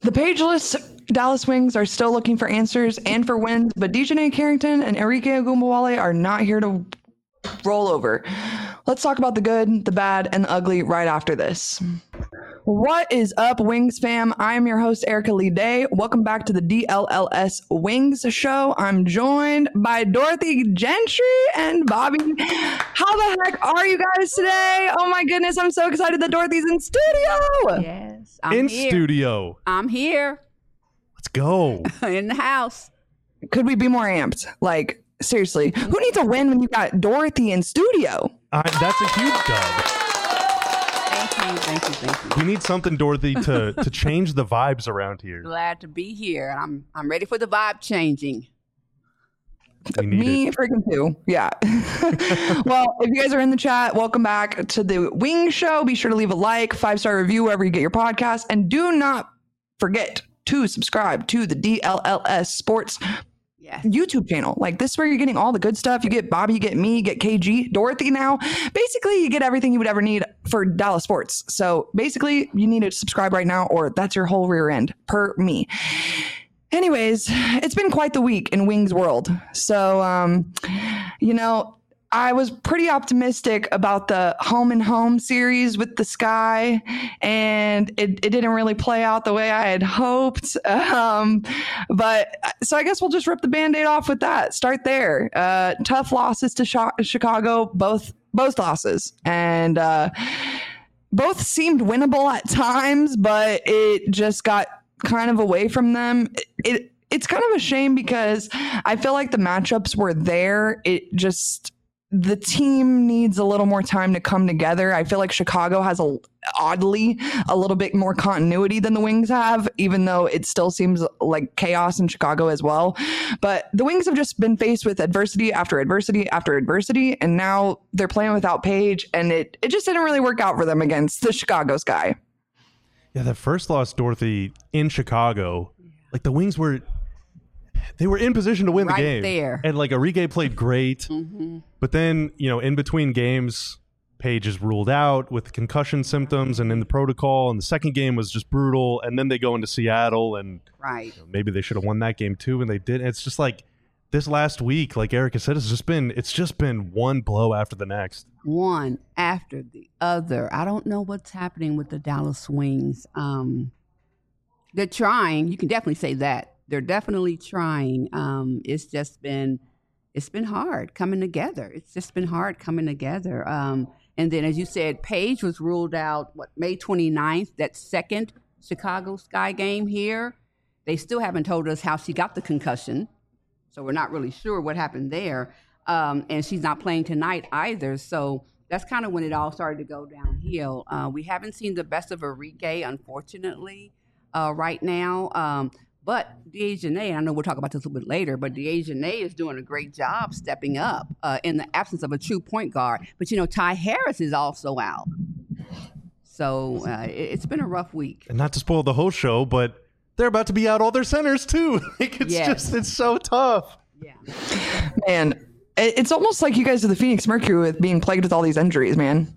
The pageless Dallas Wings are still looking for answers and for wins, but Dejanay Carrington and Enrique Ogunbowale are not here to roll over. Let's talk about the good, the bad, and the ugly right after this. What is up, Wings fam? I am your host, Erica Lee Day. Welcome back to the DLLS Wings Show. I'm joined by Dorothy Gentry and Bobby. How the heck are you guys today? Oh my goodness, I'm so excited that Dorothy's in studio. Yes, I'm here. Studio. I'm here Let's go. in the house. Could we be more amped? Like, seriously, who needs a win when you got Dorothy in studio? That's a huge dub. Thank you. We need something, Dorothy, to change the vibes around here. Glad to be here. I'm ready for the vibe changing. We need Me it. freaking too. Yeah. Well, if you guys are in the chat, welcome back to the Wing Show. Be sure to leave a like, 5-star review wherever you get your podcast. And do not forget to subscribe to the DLLS Sports YouTube channel. Like, this is where you're getting all the good stuff. You get Bobby, you get me, you get KG, Dorothy now. Basically, you get everything you would ever need for Dallas sports. So basically, you need to subscribe right now, or that's your whole rear end per me. Anyways, it's been quite the week in Wings world. So, I was pretty optimistic about the home and home series with the Sky, and it didn't really play out the way I had hoped. But so I guess we'll just rip the Band-Aid off with that. Start there. Tough losses to Chicago, both losses, and both seemed winnable at times, but it just got kind of away from them. It's kind of a shame because I feel like the matchups were there. The team needs a little more time to come together. I feel like Chicago has oddly a little bit more continuity than the Wings have, even though it still seems like chaos in Chicago as well. But the Wings have just been faced with adversity after adversity after adversity, and now they're playing without Paige, and it just didn't really work out for them against the Chicago Sky. Yeah, that first loss, Dorothy, in Chicago, like the Wings were in position to win the game. There. And like Enrique played great. Mm-hmm. But then, in between games, Paige is ruled out with concussion symptoms and in the protocol. And the second game was just brutal. And then they go into Seattle and maybe they should have won that game too. And they didn't. It's just like this last week, like Erica said, it's just been one blow after the next. One after the other. I don't know what's happening with the Dallas Wings. They're trying. You can definitely say that. They're definitely trying. It's been hard coming together. It's just been hard coming together. And then, as you said, Paige was ruled out, May 29th, that second Chicago Sky game here. They still haven't told us how she got the concussion, so we're not really sure what happened there. And she's not playing tonight either, so that's kind of when it all started to go downhill. We haven't seen the best of Enrique, unfortunately, right now. But Dejanay, I know we'll talk about this a little bit later, but Dejanay is doing a great job stepping up in the absence of a true point guard. But, Ty Harris is also out. So it's been a rough week. And not to spoil the whole show, but they're about to be out all their centers too. It's so tough. Yeah. Man, it's almost like you guys are the Phoenix Mercury with being plagued with all these injuries, man.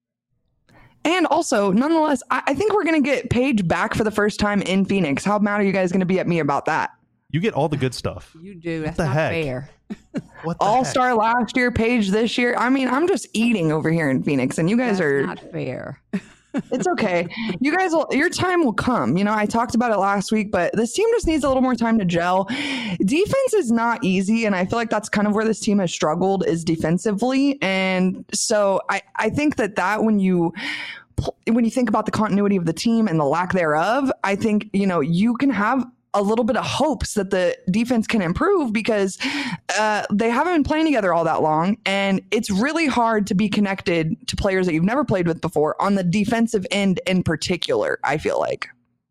And also, nonetheless, I think we're going to get Paige back for the first time in Phoenix. How mad are you guys going to be at me about that? You get all the good stuff. You do. That's what the not heck? Fair. What the All-star last year, Paige this year. I mean, I'm just eating over here in Phoenix, and you guys That's not fair. It's okay. You guys your time will come. I talked about it last week, but this team just needs a little more time to gel. Defense is not easy, and I feel like that's kind of where this team has struggled, is defensively. And so I think that when you think about the continuity of the team and the lack thereof, I think, you can have a little bit of hopes that the defense can improve because they haven't been playing together all that long. And it's really hard to be connected to players that you've never played with before on the defensive end in particular, I feel like.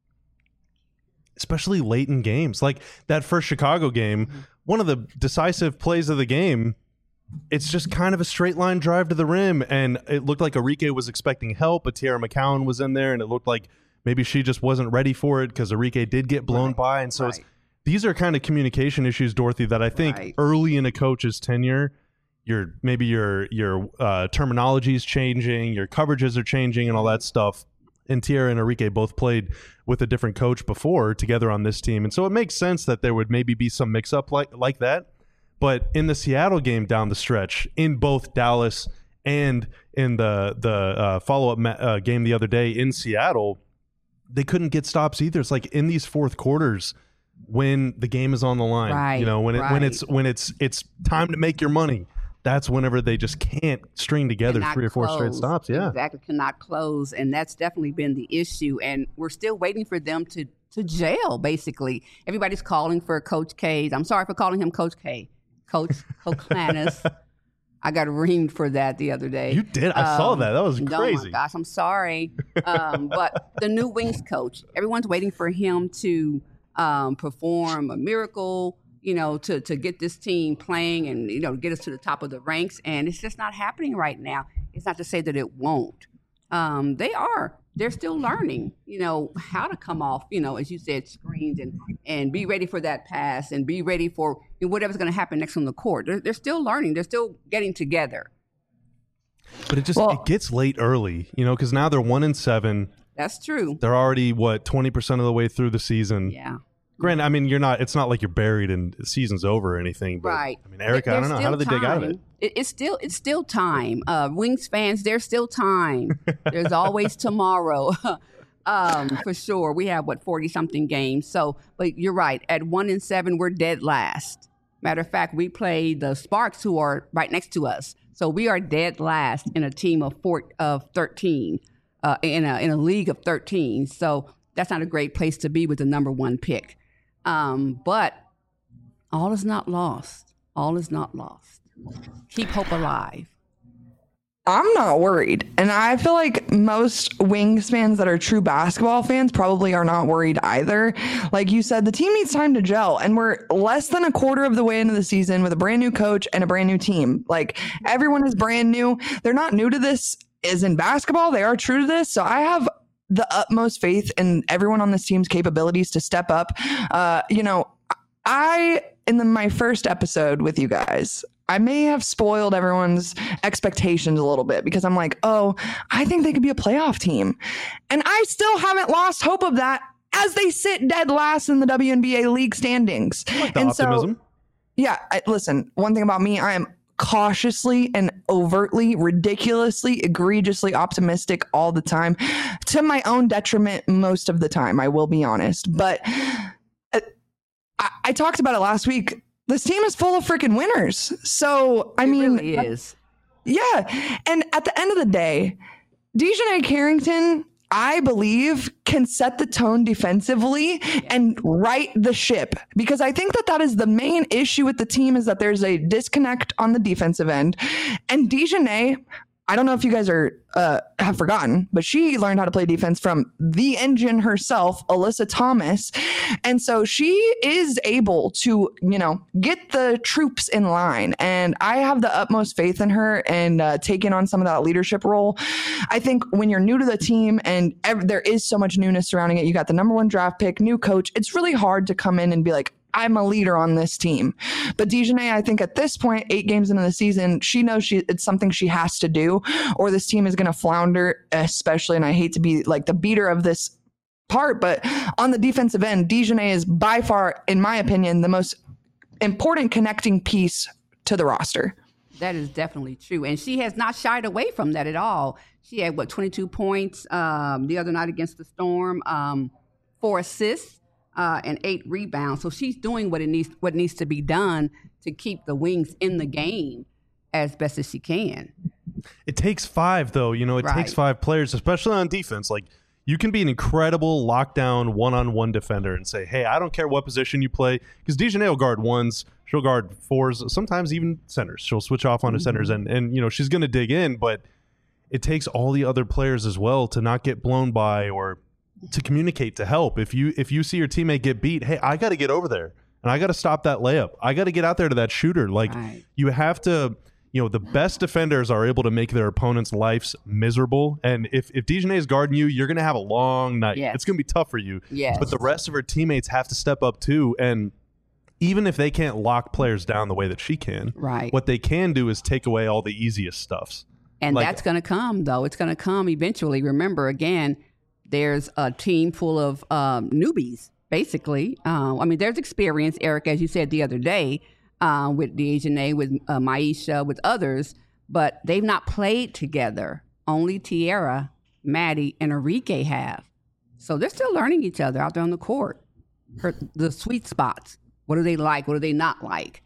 Especially late in games. Like that first Chicago game, one of the decisive plays of the game, it's just kind of a straight line drive to the rim. And it looked like Enrique was expecting help, but Tiara McCowan was in there, and it looked like maybe she just wasn't ready for it because Enrique did get blown by. And so these are kind of communication issues, Dorothy, that I think early in a coach's tenure, your terminology is changing, your coverages are changing and all that stuff. and Tierra and Enrique both played with a different coach before together on this team. And so it makes sense that there would maybe be some mix-up like that. But in the Seattle game down the stretch, in both Dallas and in the follow-up game the other day in Seattle, they couldn't get stops either. It's like in these fourth quarters when the game is on the line, right, when it's time to make your money, that's whenever they just can't string together three or four straight stops. Yeah, exactly, cannot close, and that's definitely been the issue. And we're still waiting for them to jail. Basically, everybody's calling for Coach K. I'm sorry for calling him Coach K. Coach Koklanis. I got reamed for that the other day. You did? I saw that. That was crazy. Oh my gosh, I'm sorry. But the new Wings coach, everyone's waiting for him to perform a miracle, to get this team playing and, get us to the top of the ranks. And it's just not happening right now. It's not to say that it won't. They're still learning, how to come off, as you said, screens and be ready for that pass and be ready for whatever's going to happen next on the court. They're still learning. They're still getting together. But it gets late early, because now they're 1-7. That's true. They're already 20% of the way through the season. Yeah. Granted, I mean, it's not like you're buried and the season's over or anything. But, right. I mean, Erica, I don't know. How do they dig out of it? It's still time. Wings fans, there's still time. There's always tomorrow. For sure. We have 40-something games. So, but you're right. At 1-7, we're dead last. Matter of fact, we play the Sparks, who are right next to us. So we are dead last in a team of 13, in a league of 13. So that's not a great place to be with the number one pick. But all is not lost. All is not lost. Keep hope alive. I'm not worried. And I feel like most Wings fans that are true basketball fans probably are not worried either. Like you said, the team needs time to gel. And we're less than a quarter of the way into the season with a brand new coach and a brand new team. Like everyone is brand new. They're not new to this as in basketball. They are true to this. So I have the utmost faith in everyone on this team's capabilities to step up. My first episode with you guys, I may have spoiled everyone's expectations a little bit because I'm like, I think they could be a playoff team. And I still haven't lost hope of that as they sit dead last in the WNBA league standings. Like the optimism. So, listen, one thing about me, I am cautiously and overtly, ridiculously, egregiously optimistic all the time, to my own detriment most of the time, I will be honest. But I talked about it last week. This team is full of freaking winners. So, it really is. Yeah. And at the end of the day, DiJonai Carrington, I believe, can set the tone defensively and right the ship, because I think that is the main issue with the team, is that there's a disconnect on the defensive end. And DiJonai, I don't know if you guys have forgotten, but she learned how to play defense from the engine herself, Alyssa Thomas. And so she is able to, get the troops in line. And I have the utmost faith in her and taking on some of that leadership role. I think when you're new to the team and there is so much newness surrounding it, you got the number one draft pick, new coach, it's really hard to come in and be like, I'm a leader on this team. But DiJonai, I think at this point, 8 games into the season, she knows it's something she has to do, or this team is going to flounder, especially, and I hate to be like the beater of this part, but on the defensive end, DiJonai is by far, in my opinion, the most important connecting piece to the roster. That is definitely true. And she has not shied away from that at all. She had, 22 points the other night against the Storm, 4 assists. And 8 rebounds. So she's doing what needs to be done to keep the Wings in the game as best as she can. It takes 5, though. It takes 5 players, especially on defense. Like, you can be an incredible lockdown one-on-one defender and say, hey, I don't care what position you play, because DiJonai will guard 1s, she'll guard 4s, sometimes even centers. She'll switch off onto centers, and she's going to dig in, but it takes all the other players as well to not get blown by or to communicate, to help. If you see your teammate get beat, hey, I got to get over there and I got to stop that layup. I got to get out there to that shooter. Like, you have to, the best defenders are able to make their opponent's lives miserable. And if DiJonai is guarding you, you're going to have a long night. Yes. It's going to be tough for you. Yes. But the rest of her teammates have to step up too. And even if they can't lock players down the way that she can, what they can do is take away all the easiest stuffs. And that's going to come, though. It's going to come eventually. Remember, again, there's a team full of newbies, basically. I mean, there's experience, Eric, as you said the other day, with DeJournette, with Maisha, with others, but they've not played together. Only Tierra, Maddie, and Enrique have. So they're still learning each other out there on the court. The sweet spots. What do they like? What do they not like?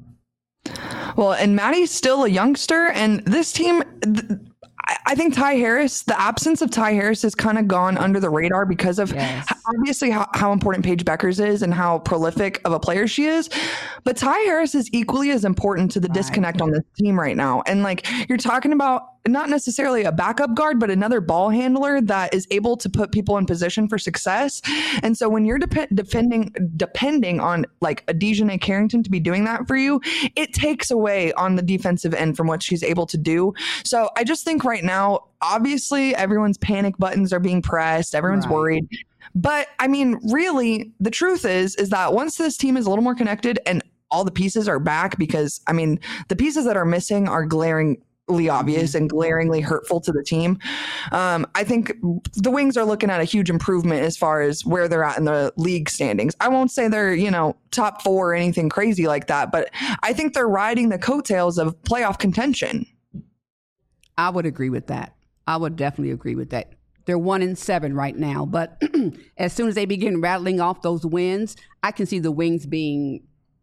Well, and Maddie's still a youngster, and this team, I think Ty Harris, the absence of Ty Harris has kind of gone under the radar because of obviously how important Paige Beckers is and how prolific of a player she is. But Ty Harris is equally as important to the disconnect on this team right now. And like you're talking about not necessarily a backup guard, but another ball handler that is able to put people in position for success. And so when you're depending on like a DeJournette Carrington to be doing that for you, it takes away on the defensive end from what she's able to do. So I just think right now, obviously everyone's panic buttons are being pressed. Everyone's worried. But I mean, really, the truth is that once this team is a little more connected and all the pieces are back, because I mean, the pieces that are missing are glaringly obvious and glaringly hurtful to the team. I think the Wings are looking at a huge improvement as far as where they're at in the league standings. I won't say they're, top 4 or anything crazy like that, but I think they're riding the coattails of playoff contention. I would agree with that. I would definitely agree with that. They're 1-7 right now, but as soon as they begin rattling off those wins, I can see the Wings being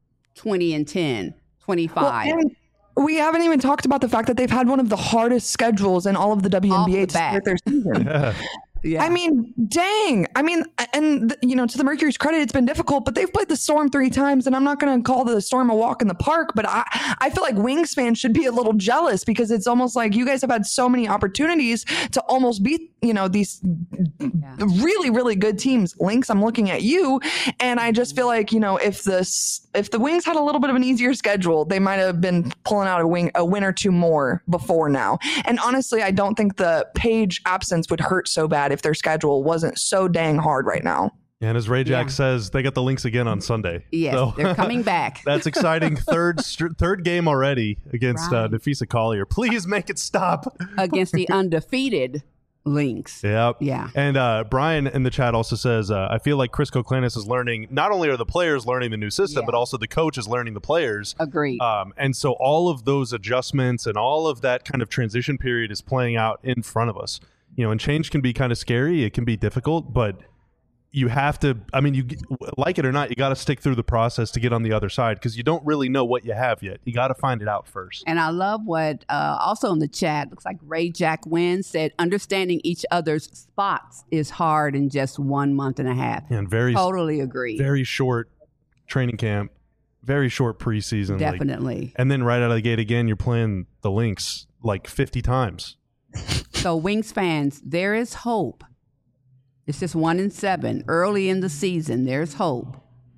20-10, 25. Well, we haven't even talked about the fact that they've had one of the hardest schedules in all of the WNBA to start their season. Yeah. I mean, dang. I mean, and to the Mercury's credit, it's been difficult, but they've played the Storm 3 times, and I'm not going to call the Storm a walk in the park, but I feel like Wings fans should be a little jealous because it's almost like you guys have had so many opportunities to almost beat, these really, really good teams. Lynx, I'm looking at you, and I just feel like, if the Wings had a little bit of an easier schedule, they might have been pulling out a win or two more before now. And honestly, I don't think the Paige absence would hurt so bad if their schedule wasn't so dang hard right now. And as Ray Jack says, they got the Lynx again on Sunday. Yes, so, they're coming back. That's exciting. Third game already against Nafisa Collier. Please make it stop. Against the undefeated Lynx. Yep. Yeah. And Brian in the chat also says, I feel like Chris Koklanis is learning, not only are the players learning the new system, but also the coach is learning the players. Agreed. And so all of those adjustments and all of that kind of transition period is playing out in front of us. And change can be kind of scary. It can be difficult, but you have to, you like it or not, you got to stick through the process to get on the other side because you don't really know what you have yet. You got to find it out first. And I love what also in the chat, looks like Ray Jack Wynn said, understanding each other's spots is hard in just 1 month and a half. And totally agree. Very short training camp, very short preseason. Definitely. And then right out of the gate again, you're playing the Lynx like 50 times. So Wings fans, there is hope. It's just 1-7 early in the season. There's hope.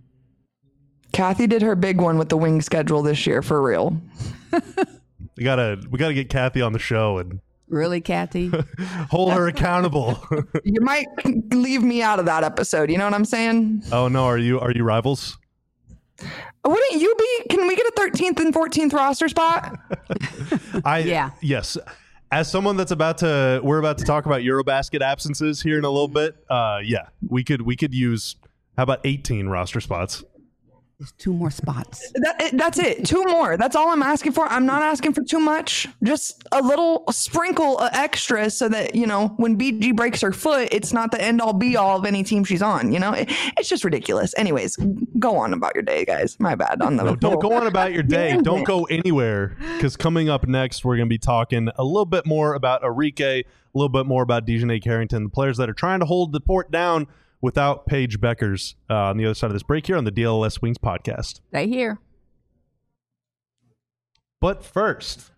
Kathy did her big one with the Wing schedule this year, for real. We gotta get Kathy on the show and really, Kathy, hold her accountable. You might leave me out of that episode. You know what I'm saying? Oh no, are you rivals? Wouldn't you be? Can we get a 13th and 14th roster spot? Yes. As someone we're about to talk about Eurobasket absences here in a little bit. We could use, how about 18 roster spots? There's 2 more spots. That's it. 2 more. That's all I'm asking for. I'm not asking for too much. Just a little sprinkle of extra so that, when BG breaks her foot, it's not the end all be all of any team she's on. It's just ridiculous. Anyways, go on about your day, guys. My bad. Don't go on about your day. Don't go anywhere because coming up next, we're going to be talking a little bit more about Enrique, a little bit more about DeJournette Carrington, the players that are trying to hold the fort down without Paige Beckers on the other side of this break here on the DLS Wings podcast. Stay here. But first,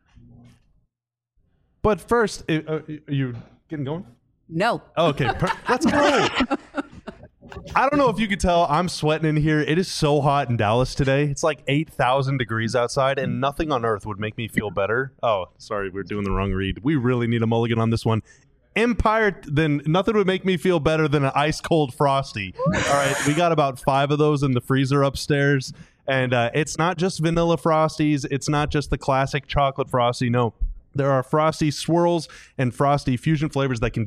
are you getting going? No. Okay, let's go. I don't know if you could tell, I'm sweating in here. It is so hot in Dallas today. It's like 8,000 degrees outside, and nothing on earth would make me feel better. Oh, sorry, we're doing the wrong read. We really need a mulligan on this one. Empire, then nothing would make me feel better than an ice cold Frosty. All right, we got about 5 of those in the freezer upstairs, and it's not just vanilla Frosties. It's not just the classic chocolate Frosty. No, there are Frosty swirls and Frosty fusion flavors that can get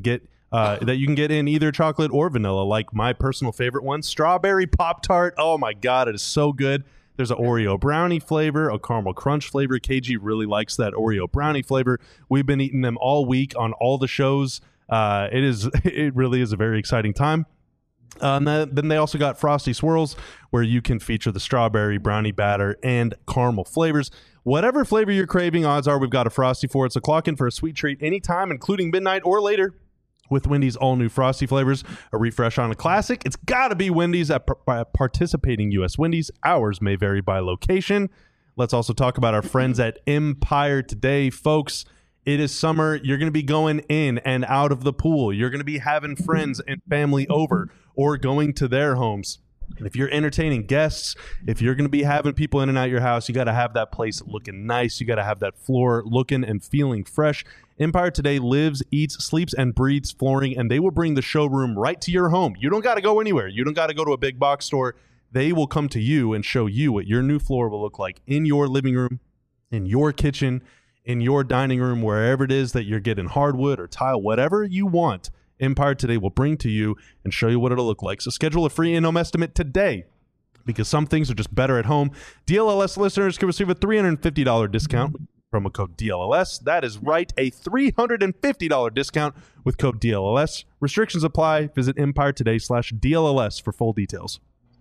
that you can get in either chocolate or vanilla, like my personal favorite one, strawberry Pop-Tart. Oh my God, it is so good. There's an Oreo brownie flavor, a caramel crunch flavor. KG really likes that Oreo brownie flavor. We've been eating them all week on all the shows. It really is a very exciting time. Then they also got Frosty Swirls, where you can feature the strawberry, brownie batter, and caramel flavors. Whatever flavor you're craving, odds are we've got a Frosty for it. So clock in for a sweet treat anytime, including midnight or later, with Wendy's all-new Frosty flavors. A refresh on a classic? It's got to be Wendy's at participating U.S. Wendy's. Hours may vary by location. Let's also talk about our friends at Empire today, folks. It is summer. You're going to be going in and out of the pool. You're going to be having friends and family over or going to their homes. And if you're entertaining guests, if you're going to be having people in and out your house, you got to have that place looking nice. You got to have that floor looking and feeling fresh. Empire today lives, eats, sleeps, and breathes flooring, and they will bring the showroom right to your home. You don't got to go anywhere. You don't got to go to a big box store. They will come to you and show you what your new floor will look like in your living room, in your kitchen, in your dining room, wherever it is that you're getting hardwood or tile, whatever you want. Empire today will bring to you and show you what it'll look like. So schedule a free in-home estimate today, because some things are just better at home. DLLS listeners can receive a $350 discount with promo code DLLS. That is right, a $350 discount with code DLLS. Restrictions apply. Visit empiretoday.com/DLLS for full details.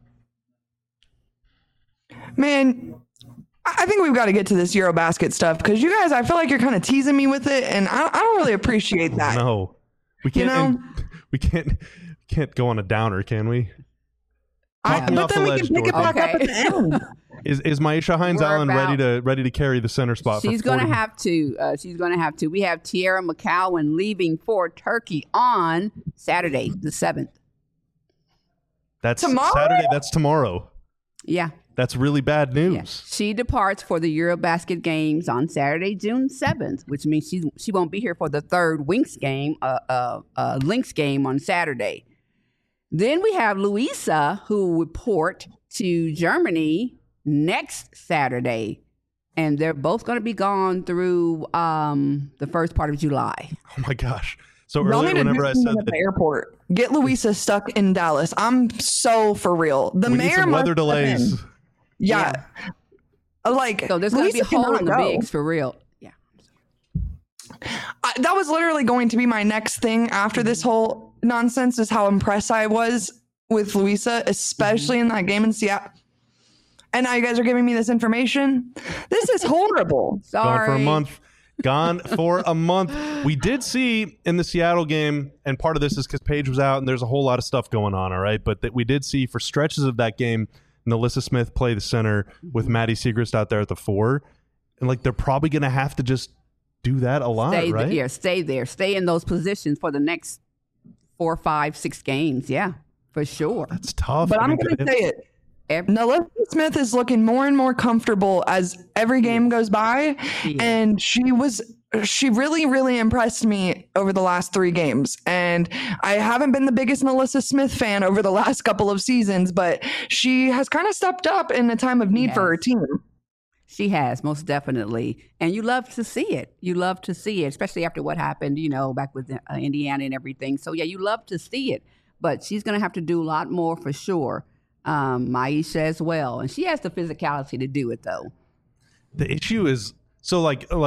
Man, I think we've got to get to this Eurobasket stuff, because you guys, I feel like you're kind of teasing me with it, and I don't really appreciate that. No, we can't. We can't go on a downer, can we? But then we can pick it back up at the end. Is Myisha Hines-Allen ready to carry the center spot? She's going to have to. She's going to have to. We have Tierra McCowan leaving for Turkey on Saturday, the 7th. That's tomorrow? Saturday. That's tomorrow. Yeah. That's really bad news. Yeah. She departs for the Eurobasket games on Saturday, June 7th, which means she won't be here for the third Lynx game on Saturday. Then we have Louisa, who will report to Germany next Saturday, and they're both going to be gone through the first part of July. Oh my gosh! So earlier, whenever I said at the airport, get Louisa stuck in Dallas. I'm so for real. The we mayor need some weather delays. Yeah. Like, so there's going to be a hole in the bigs for real. Yeah. That was literally going to be my next thing after this whole nonsense, is how impressed I was with Louisa, especially in that game in Seattle. And now you guys are giving me this information. This is horrible. Sorry. Gone for a month. We did see in the Seattle game, and part of this is because Paige was out and there's a whole lot of stuff going on, all right? But that we did see for stretches of that game, NaLyssa Smith play the center with Maddie Siegrist out there at the 4. And like, they're probably going to have to just do that a lot, right? Stay there. Stay in those positions for the next 4, 5, 6 games. Yeah, for sure. That's tough. But I'm going to say it. NaLyssa Smith is looking more and more comfortable as every game goes by. And she really, really impressed me over the last 3 games. And I haven't been the biggest NaLyssa Smith fan over the last couple of seasons, but she has kind of stepped up in a time of need for her team. She has, most definitely. And you love to see it. You love to see it, especially after what happened, back with Indiana and everything. So, yeah, you love to see it. But she's going to have to do a lot more for sure. Myisha as well. And she has the physicality to do it, though. The issue is, so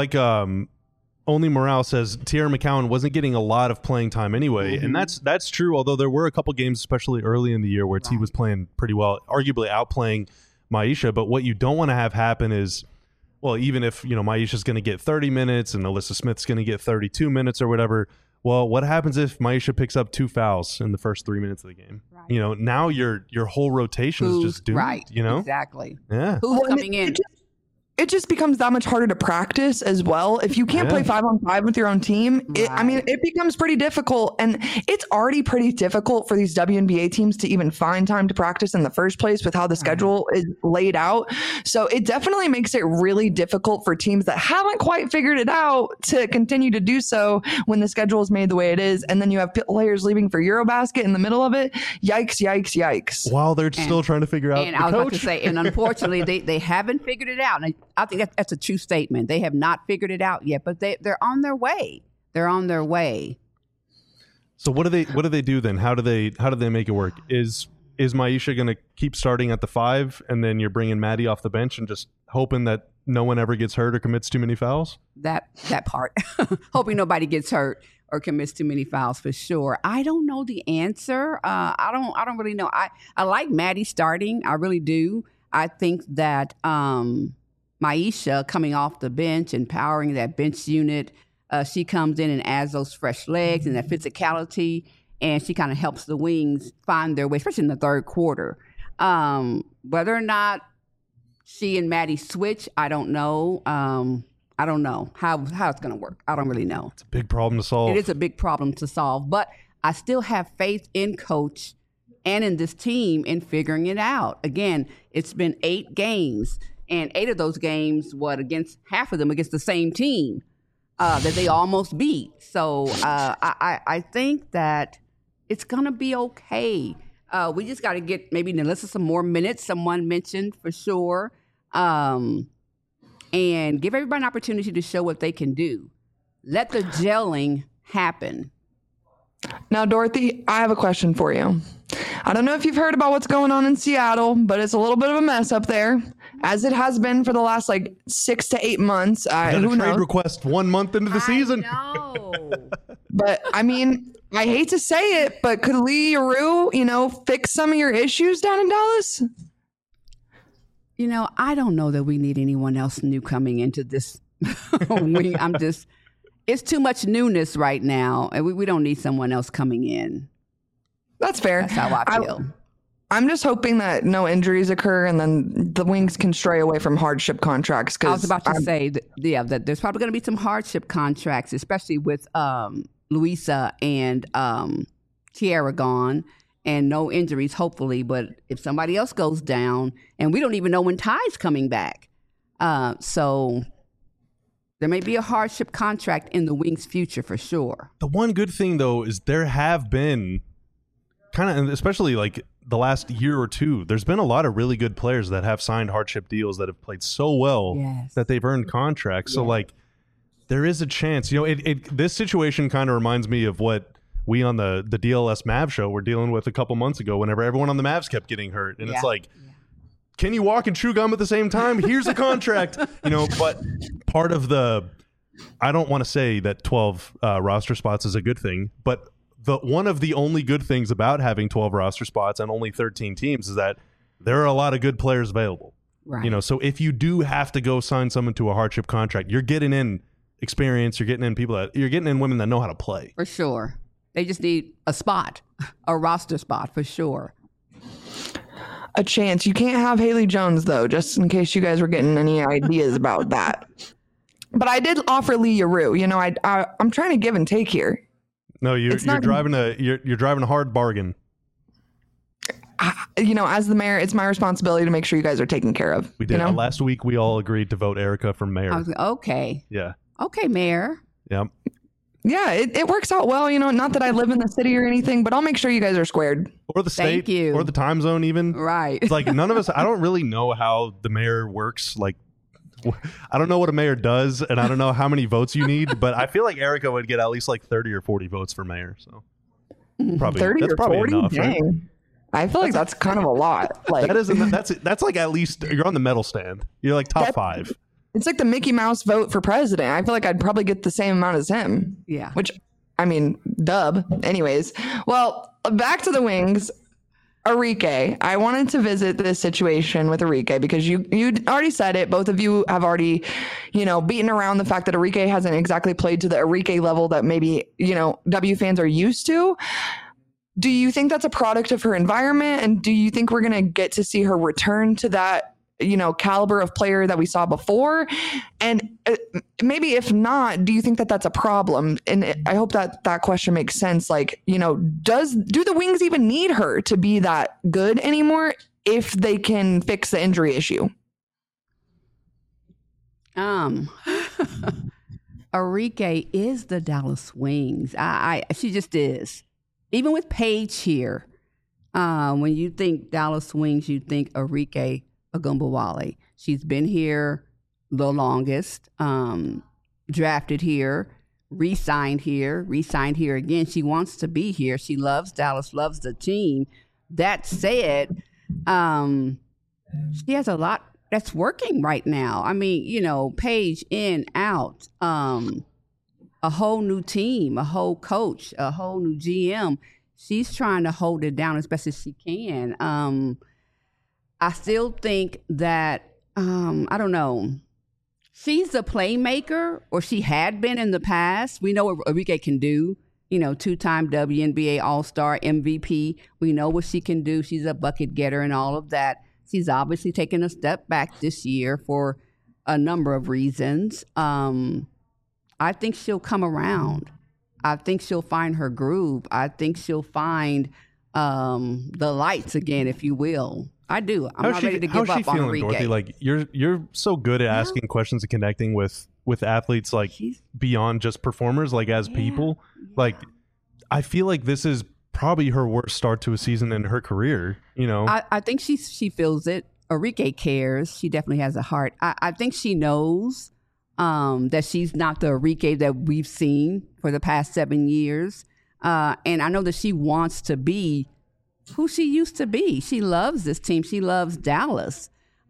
Only Morale says Tierra McCowan wasn't getting a lot of playing time anyway. And that's true, although there were a couple games, especially early in the year, where T was playing pretty well, arguably outplaying Myisha. But what you don't want to have happen is, well, even if, Myisha's going to get 30 minutes and NaLyssa Smith's going to get 32 minutes or whatever, well, what happens if Myisha picks up 2 fouls in the first 3 minutes of the game? Right. Now your whole rotation is just doomed. Right. Exactly. Yeah. Who's coming in? It just becomes that much harder to practice as well. If you can't play 5-on-5 with your own team, it becomes pretty difficult. And it's already pretty difficult for these WNBA teams to even find time to practice in the first place with how the schedule is laid out. So it definitely makes it really difficult for teams that haven't quite figured it out to continue to do so when the schedule is made the way it is. And then you have players leaving for Eurobasket in the middle of it. Yikes, yikes, yikes. While they're still trying to figure out the coach. I was about to say, and unfortunately, they haven't figured it out. And I think that's a true statement. They have not figured it out yet, but they're on their way. They're on their way. So what do they do then? How do they make it work? Is Myisha going to keep starting at the 5, and then you're bringing Maddie off the bench and just hoping that no one ever gets hurt or commits too many fouls? That part. Hoping nobody gets hurt or commits too many fouls for sure. I don't know the answer. I don't really know. I like Maddie starting. I really do. I think that Myisha coming off the bench and powering that bench unit, she comes in and adds those fresh legs and that physicality, and she kind of helps the Wings find their way, especially in the third quarter. Whether or not she and Maddie switch, I don't know. I don't know how it's going to work. I don't really know. It's a big problem to solve. It is a big problem to solve, but I still have faith in Coach and in this team in figuring it out. Again, it's been 8 games, and 8 of those games, against half of them against the same team that they almost beat. So I think that it's going to be okay. We just got to get maybe Nalissa some more minutes, someone mentioned for sure, and give everybody an opportunity to show what they can do. Let the gelling happen. Now, Dorothy, I have a question for you. I don't know if you've heard about what's going on in Seattle, but it's a little bit of a mess up there, as it has been for the last 6 to 8 months. Got a trade request 1 month into the season. No. But I mean, I hate to say it, but could Lee Rue, fix some of your issues down in Dallas? I don't know that we need anyone else new coming into this. It's too much newness right now, and we don't need someone else coming in. That's fair. That's how I feel. I'm just hoping that no injuries occur, and then the Wings can stray away from hardship contracts. I was about to say that there's probably going to be some hardship contracts, especially with Louisa and Tiara gone, and no injuries, hopefully. But if somebody else goes down, and we don't even know when Ty's coming back, so there may be a hardship contract in the Wings' future for sure. The one good thing, though, is there have been especially the last year or two, there's been a lot of really good players that have signed hardship deals that have played so well that they've earned contracts. Yeah. So there is a chance, this situation kind of reminds me of what we on the DLS Mavs show were dealing with a couple months ago, whenever everyone on the Mavs kept getting hurt. And it's can you walk and chew gum at the same time? Here's a contract, but part of I don't want to say that 12 roster spots is a good thing, but one of the only good things about having 12 roster spots and only 13 teams is that there are a lot of good players available. Right. So if you do have to go sign someone to a hardship contract, you're getting in experience, you're getting in women that know how to play. For sure. They just need a spot, a roster spot for sure. A chance. You can't have Haley Jones, though, just in case you guys were getting any ideas about that. But I did offer Leah Rue. I'm trying to give and take here. No, you're driving a hard bargain. As the mayor, it's my responsibility to make sure you guys are taken care of. We did. Last week, we all agreed to vote Erica for mayor. Okay. Yeah. Okay, mayor. Yeah. Yeah, it works out well. Not that I live in the city or anything, but I'll make sure you guys are squared. Or the state. Thank you. Or the time zone even. Right. It's none of us, I don't really know how the mayor works. I don't know what a mayor does, and I don't know how many votes you need, but I feel like Erica would get at least 30 or 40 votes for mayor. So probably 30 that's or probably 40? enough. Dang. Right? I feel like that's kind of a lot. That's at least you're on the medal stand. You're top 5. It's like the Mickey Mouse vote for president. I feel like I'd probably get the same amount as him. Yeah. Which, dub. Anyways, well, back to the Wings. Arike, I wanted to visit this situation with Arike because you already said it. Both of you have already, beaten around the fact that Arike hasn't exactly played to the Arike level that maybe, W fans are used to. Do you think that's a product of her environment? And do you think we're going to get to see her return to that, caliber of player that we saw before? And maybe if not, do you think that that's a problem? And I hope that question makes sense. Do the Wings even need her to be that good anymore if they can fix the injury issue? Arike is the Dallas Wings. She just is. Even with Paige here, when you think Dallas Wings, you think Arike Ogunbowale. She's been here the longest, drafted here, re-signed here again. She wants to be here. She loves Dallas, loves the team. That said, she has a lot that's working right now. I mean, you know, Paige in, out, a whole new team, a whole coach, a whole new GM. She's trying to hold it down as best as she can. I still think that, I don't know, she's a playmaker, or she had been in the past. We know what Arike can do. You know, 2-time WNBA All-Star, MVP. We know what she can do. She's a bucket getter and all of that. She's obviously taken a step back this year for a number of reasons. I think she'll come around. I think she'll find her groove. I think she'll find the lights again, if you will. I do. I'm not ready to give up on Arike. Dorothy? Like, you're so good at asking questions and connecting with athletes, like beyond just performers, like as people. Like, I feel like this is probably her worst start to a season in her career. You know, I think she feels it. Arike cares. She definitely has a heart. I think she knows that she's not the Arike that we've seen for the past 7 years, and I know that she wants to be who she used to be. She loves this team. She loves Dallas.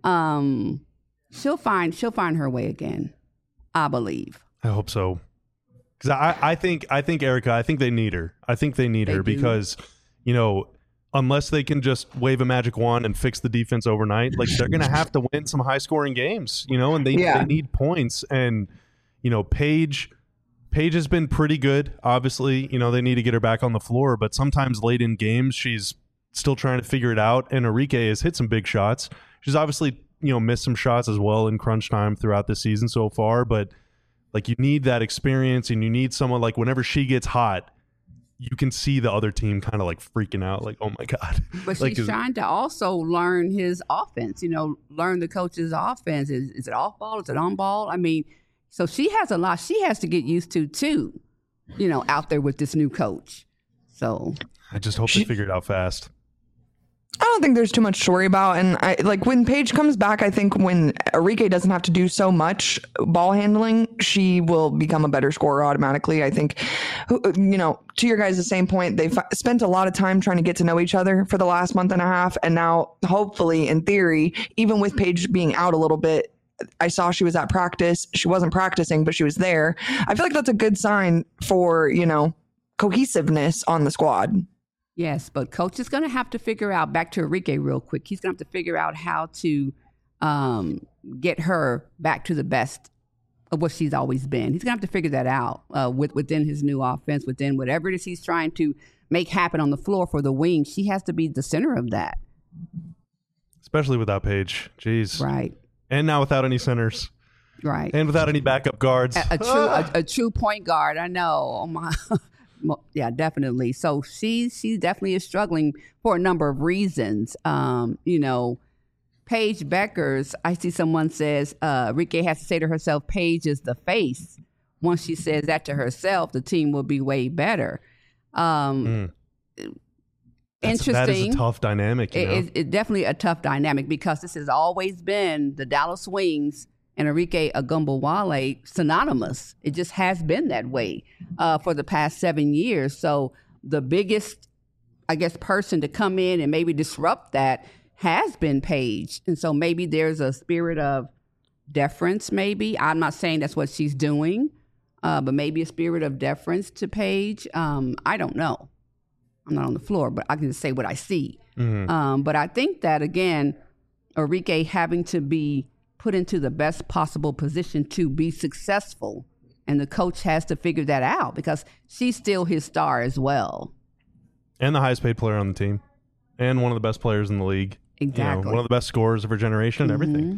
She'll find her way again, I believe. I hope so. Because I think Erica, I think they need her. I think they need her because, you know, unless they can just wave a magic wand and fix the defense overnight, like, they're going to have to win some high scoring games, you know, and they need points. And, you know, Paige has been pretty good. Obviously, you know, they need to get her back on the floor, but sometimes late in games, she's still trying to figure it out. And Arike has hit some big shots. She's obviously, you know, missed some shots as well in crunch time throughout the season so far, but like, you need that experience, and you need someone, like, whenever she gets hot, you can see the other team kind of like freaking out, like, oh my God. But like, she's trying to also learn his offense, you know, learn the coach's offense. Is it off ball? Is it on ball? I mean, so she has a lot she has to get used to too, you know, out there with this new coach. So I just hope they figure it out fast. I don't think there's too much to worry about. And I like when Paige comes back, I think when Arike doesn't have to do so much ball handling, she will become a better scorer automatically. I think, you know, to your guys' the same point, they've spent a lot of time trying to get to know each other for the last month and a half. And now, hopefully, in theory, even with Paige being out a little bit, I saw she was at practice. She wasn't practicing, but she was there. I feel like that's a good sign for, you know, cohesiveness on the squad. Yes, but coach is going to have to figure out, back to Arike real quick, he's going to have to figure out how to get her back to the best of what she's always been. He's going to have to figure that out within his new offense, within whatever it is he's trying to make happen on the floor for the wing. She has to be the center of that. Especially without Paige. Jeez. Right. And now without any centers. Right. And without any backup guards. A true point guard. I know. Oh my. Yeah, definitely. So she definitely is struggling for a number of reasons. You know, Paige Bueckers, I see someone says Arike has to say to herself, Paige is the face. Once she says that to herself, the team will be way better. Interesting. That is a tough dynamic. You know? It's definitely a tough dynamic because this has always been the Dallas Wings and Arike Ogunbowale synonymous. It just has been that way for the past 7 years. So the biggest, I guess, person to come in and maybe disrupt that has been Paige. And so maybe there's a spirit of deference, maybe. I'm not saying that's what she's doing, but maybe a spirit of deference to Paige. I don't know. I'm not on the floor, but I can just say what I see. Mm-hmm. But I think that, again, Arike having to be put into the best possible position to be successful. And the coach has to figure that out because she's still his star as well. And the highest paid player on the team. And one of the best players in the league. Exactly. You know, one of the best scorers of her generation and everything.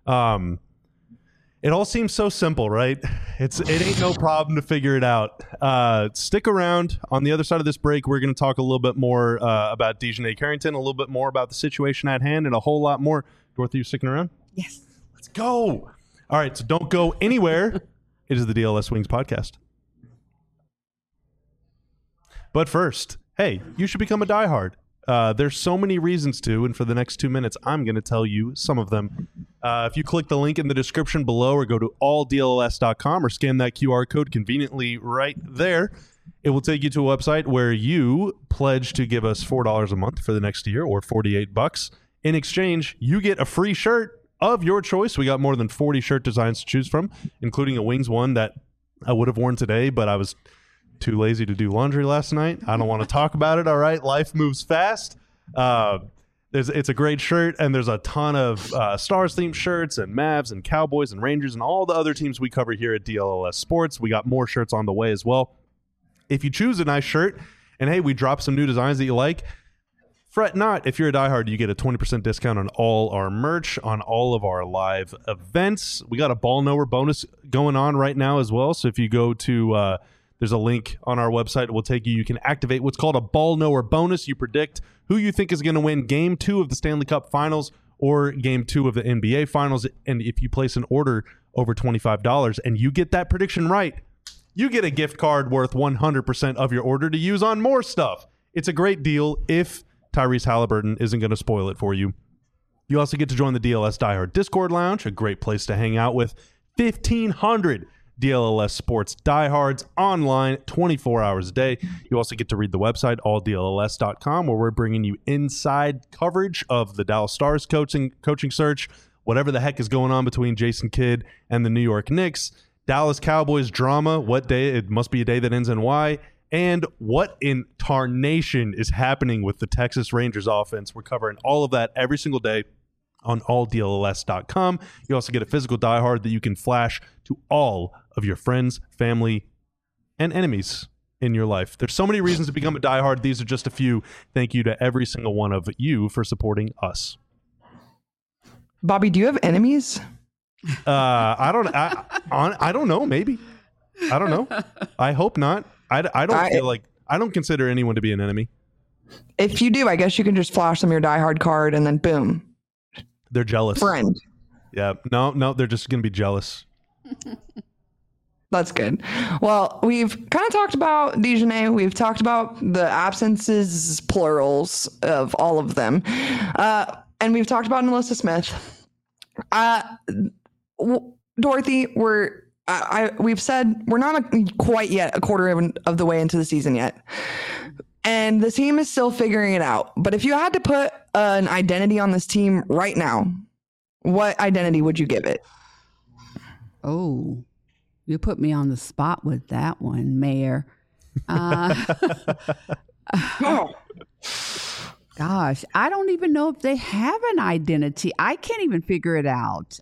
It all seems so simple, right? It ain't no problem to figure it out. Stick around. On the other side of this break, we're going to talk a little bit more about DiJonai Carrington, a little bit more about the situation at hand, and a whole lot more. Dorothy, you sticking around? Yes. Let's go. All right, so don't go anywhere. It is the DLS Wings podcast. But first, hey, you should become a diehard. There's so many reasons to, and for the next 2 minutes, I'm going to tell you some of them. If you click the link in the description below or go to alldls.com or scan that QR code conveniently right there, it will take you to a website where you pledge to give us $4 a month for the next year or $48. In exchange, you get a free shirt of your choice. We got more than 40 shirt designs to choose from, including a Wings one that I would have worn today, but I was too lazy to do laundry last night. I don't want to talk about it. All right. Life moves fast. It's a great shirt, and there's a ton of Stars themed shirts and Mavs and Cowboys and Rangers and all the other teams we cover here at DLLS Sports. We got more shirts on the way as well. If you choose a nice shirt and hey, we drop some new designs that you like, fret not. If you're a diehard, you get a 20% discount on all our merch, on all of our live events. We got a ball knower bonus going on right now as well. So if you go to there's a link on our website. It will take you. You can activate what's called a ball knower bonus. You predict who you think is going to win Game 2 of the Stanley Cup Finals or Game 2 of the NBA Finals. And if you place an order over $25 and you get that prediction right, you get a gift card worth 100% of your order to use on more stuff. It's a great deal if Tyrese Halliburton isn't going to spoil it for you. You also get to join the DLS Diehard Discord Lounge, a great place to hang out with 1,500 DLLS Sports diehards online 24 hours a day. You also get to read the website, alldlls.com, where we're bringing you inside coverage of the Dallas Stars coaching search, whatever the heck is going on between Jason Kidd and the New York Knicks, Dallas Cowboys drama, what day, it must be a day that ends in Y, and what in tarnation is happening with the Texas Rangers offense. We're covering all of that every single day on alldlls.com. You also get a physical diehard that you can flash to all of your friends, family, and enemies in your life. There's so many reasons to become a diehard. These are just a few. Thank you to every single one of you for supporting us. Bobby, do you have enemies? I don't know. Maybe. I don't know. I hope not. I don't consider anyone to be an enemy. If you do, I guess you can just flash them your diehard card and then boom. They're jealous. Friend. Yeah. No, they're just going to be jealous. That's good. Well, we've kind of talked about Dejanay. We've talked about the absences, plurals of all of them. And we've talked about NaLyssa Smith. Dorothy, we've said we're not quite yet a quarter of the way into the season yet. And the team is still figuring it out. But if you had to put an identity on this team right now, what identity would you give it? Oh, you put me on the spot with that one, Mayor. Gosh, I don't even know if they have an identity. I can't even figure it out.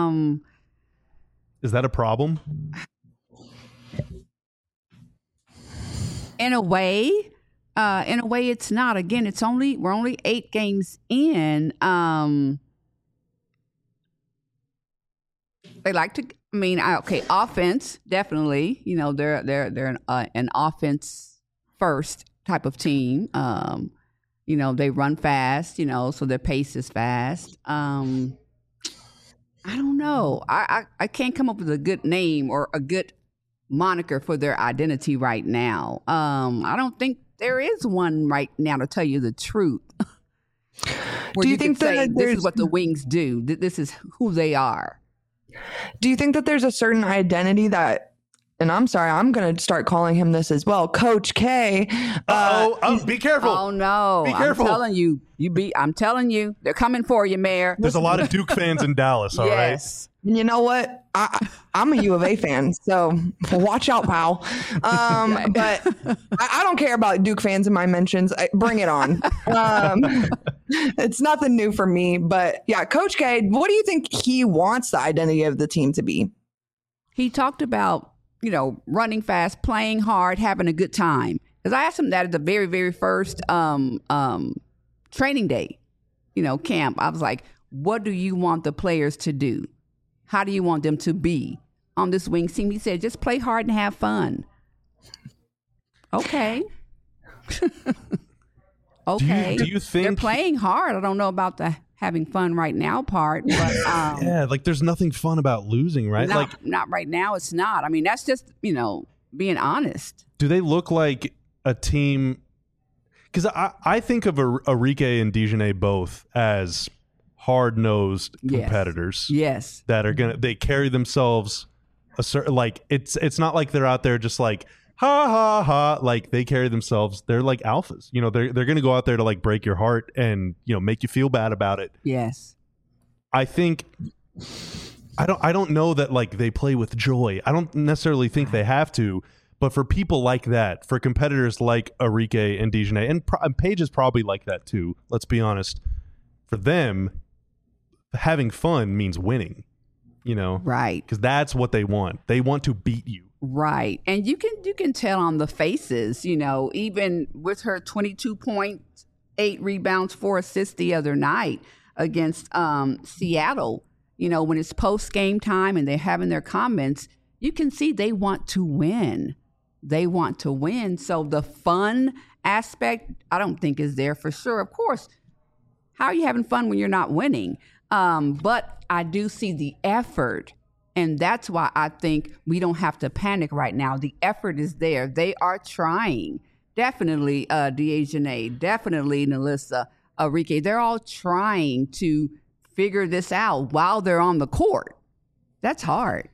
Is that a problem? In a way, it's not. Again, we're only 8 games in. They like to. I mean, offense definitely. You know, they're an offense first type of team. You know, they run fast. You know, so their pace is fast. I don't know. I can't come up with a good name or a good moniker for their identity right now. I don't think there is one right now, to tell you the truth. Do you think that this is what the Wings do? This is who they are. Do you think that there's a certain identity that, and I'm sorry, I'm going to start calling him this as well, Coach K. Be careful. Oh, no. Be careful. I'm telling you, they're coming for you, Mayor. There's a lot of Duke fans in Dallas, all right? Yes. And you know what? I'm a U of A fan, so watch out, pal. But I don't care about Duke fans in my mentions. Bring it on. It's nothing new for me. But yeah, Coach K, what do you think he wants the identity of the team to be? He talked about, you know, running fast, playing hard, having a good time. Because I asked him that at the very, very first training day, you know, camp. I was like, what do you want the players to do? How do you want them to be on this Wings team? He said, just play hard and have fun. Okay. Okay. Do you think they're playing hard? I don't know about the having fun right now part, but yeah, like there's nothing fun about losing, right? Not right now. It's not. I mean, that's just, you know, being honest. Do they look like a team? Because I think of Arike and Dejanay both as hard-nosed Yes. competitors Yes. that are they carry themselves a certain, like, it's not like they're out there just like ha ha ha, like they carry themselves, they're like alphas, you know, they're going to go out there to like break your heart and, you know, make you feel bad about it. Yes. I think I don't know that like they play with joy. I don't necessarily think they have to, but for people like that, for competitors like Arike and DeJohnay, and Paige is probably like that too, let's be honest, for them, having fun means winning, you know? Right. Because that's what they want. They want to beat you. Right. And you can tell on the faces, you know, even with her 22.8 rebounds, 4 assists the other night against Seattle, you know, when it's post game time and they're having their comments, you can see they want to win. They want to win. So the fun aspect, I don't think is there for sure. Of course, how are you having fun when you're not winning? But I do see the effort. And that's why I think we don't have to panic right now. The effort is there. They are trying. Definitely DeJohnay, definitely NaLyssa, Arike. They're all trying to figure this out while they're on the court. That's hard.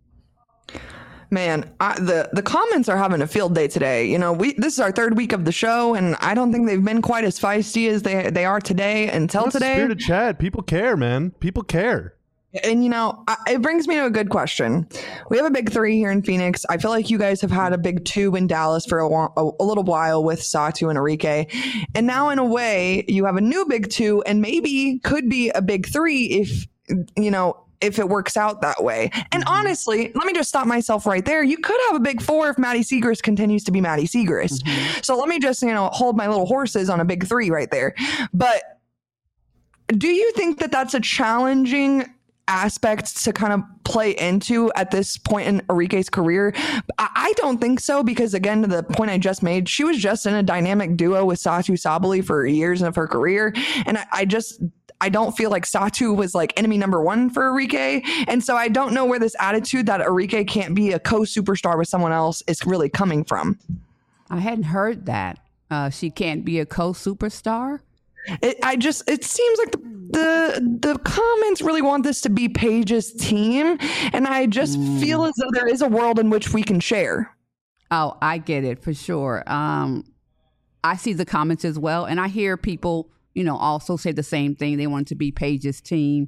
Man, the comments are having a field day today. You know, this is our 3rd week of the show, and I don't think they've been quite as feisty as they are today until That's today. the spirit of Chad. People care, man. People care. And, you know, it brings me to a good question. We have a big 3 here in Phoenix. I feel like you guys have had a big 2 in Dallas for a little while with Satou and Arike. And now, in a way, you have a new big 2 and maybe could be a big 3 if, you know, if it works out that way. And honestly, let me just stop myself right there. You could have a big 4 if Maddie Siegrist continues to be Maddie Siegrist. So let me just, you know, hold my little horses on a big 3 right there. But do you think that that's a challenging aspect to kind of play into at this point in Arike's career? I don't think so, because again, to the point I just made, she was just in a dynamic duo with Satou Sabally for years of her career. And I don't feel like Satou was like enemy number 1 for Arike. And so I don't know where this attitude that Arike can't be a co-superstar with someone else is really coming from. I hadn't heard that. She can't be a co-superstar. It seems like the comments really want this to be Paige's team, and I just feel as though there is a world in which we can share. Oh, I get it for sure. I see the comments as well, and I hear people, you know, also say the same thing. They want it to be Paige's team.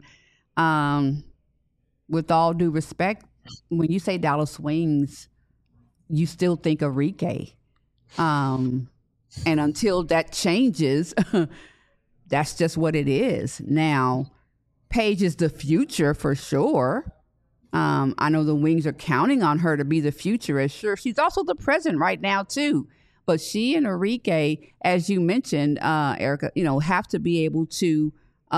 With all due respect, when you say Dallas Wings, you still think Arike. And until that changes, that's just what it is. Now, Paige is the future for sure. I know the Wings are counting on her to be the future as sure. She's also the present right now too. But she and Arike, as you mentioned, Erica, you know, have to be able to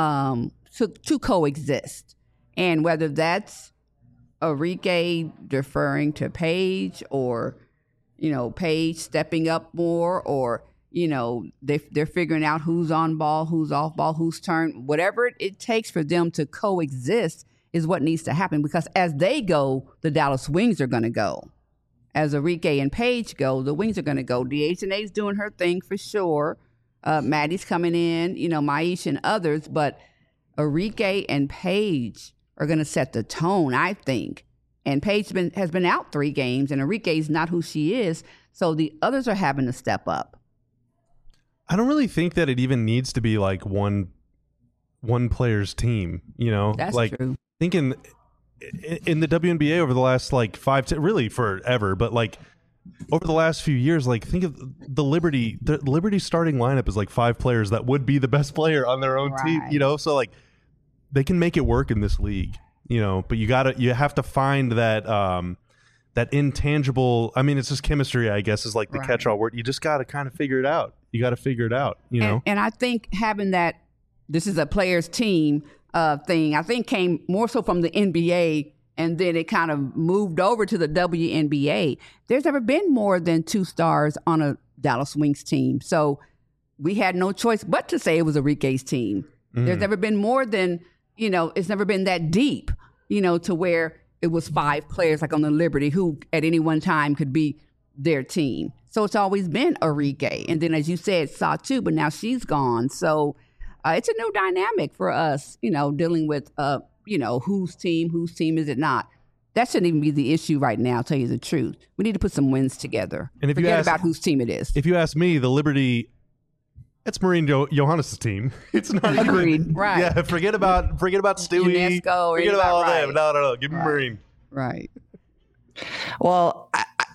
coexist. And whether that's Arike deferring to Paige, or, you know, Paige stepping up more, or, you know, they're figuring out who's on ball, who's off ball, whose turn, whatever it takes for them to coexist is what needs to happen. Because as they go, the Dallas Wings are going to go. As Arike and Paige go, the Wings are going to go. DeJohnay's doing her thing for sure. Maddie's coming in, you know, Maish and others. But Arike and Paige are going to set the tone, I think. And Paige has been out 3 games, and Arike's not who she is. So the others are having to step up. I don't really think that it even needs to be like one player's team, you know? That's like, true. Thinking in the WNBA over the last like 5 to really forever, but like over the last few years, like think of the Liberty starting lineup is like 5 players that would be the best player on their own team, you know? So like they can make it work in this league, you know, but you have to find that, that intangible, I mean, it's just chemistry, I guess, is like the catch-all word. You just got to kind of figure it out. You got to figure it out, you know? And I think having that, this is a player's team thing, I think came more so from the NBA, and then it kind of moved over to the WNBA. There's never been more than 2 stars on a Dallas Wings team. So we had no choice but to say it was Arike's team. There's never been more than, you know, it's never been that deep, you know, to where it was 5 players like on the Liberty who at any one time could be their team. So it's always been Arike. And then, as you said, Satou, but now she's gone. So it's a new dynamic for us, dealing with, whose team is it not. That shouldn't even be the issue right now, I'll tell you the truth. We need to put some wins together. And if Forget about whose team it is. If you ask me, the Liberty, it's Maureen Johannes' team. It's not Agreed. even, Right. Yeah, forget about Stewie. UNESCO, forget about all them. No. Give me Maureen. Right. Well,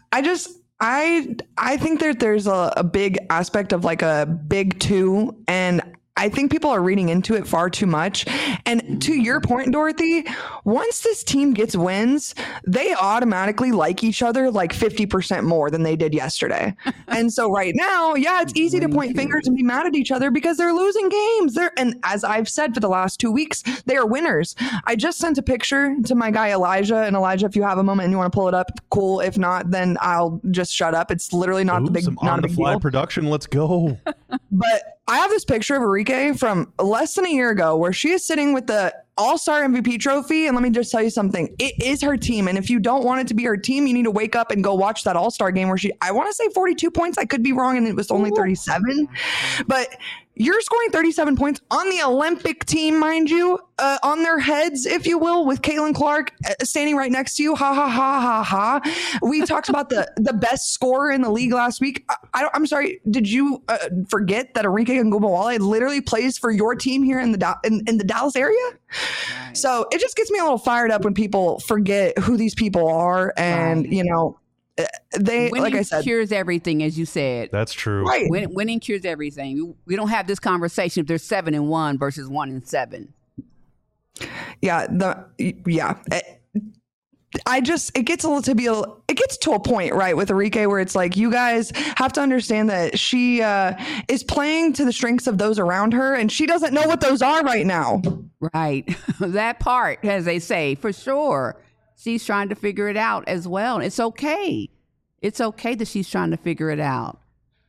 I think that there's a big aspect of like a big two, and I think people are reading into it far too much. And to your point, Dorothy, once this team gets wins, they automatically like each other like 50% more than they did yesterday. And so right now, yeah, it's easy to point fingers and be mad at each other because they're losing games. And as I've said for the last 2 weeks, they are winners. I just sent a picture to my guy Elijah. And Elijah, if you have a moment and you want to pull it up, cool. If not, then I'll just shut up. It's literally not the big, some not on a the big fly deal. production. Let's go. But I have this picture of Enrique from less than a year ago where she is sitting with the All-Star MVP trophy. And let me just tell you something. It is her team. And if you don't want it to be her team, you need to wake up and go watch that All-Star game where I want to say 42 points. I could be wrong. And it was only 37. But you're scoring 37 points on the Olympic team, mind you, on their heads, if you will, with Caitlin Clark standing right next to you. Ha, ha, ha, ha, ha. We talked about the best scorer in the league last week. I'm sorry. Did you forget that Enrique Ngubawale literally plays for your team here in the Dallas area? Right. So it just gets me a little fired up when people forget who these people are. And, they, winning like I said, cures everything, as you said. That's true. Right. Winning cures everything. We don't have this conversation if they're 7-1 versus 1-7. Yeah. It gets to a point, right, with Enrique where it's like, you guys have to understand that she is playing to the strengths of those around her, and she doesn't know what those are right now. Right. That part, as they say, for sure. She's trying to figure it out as well. It's okay. It's okay that she's trying to figure it out.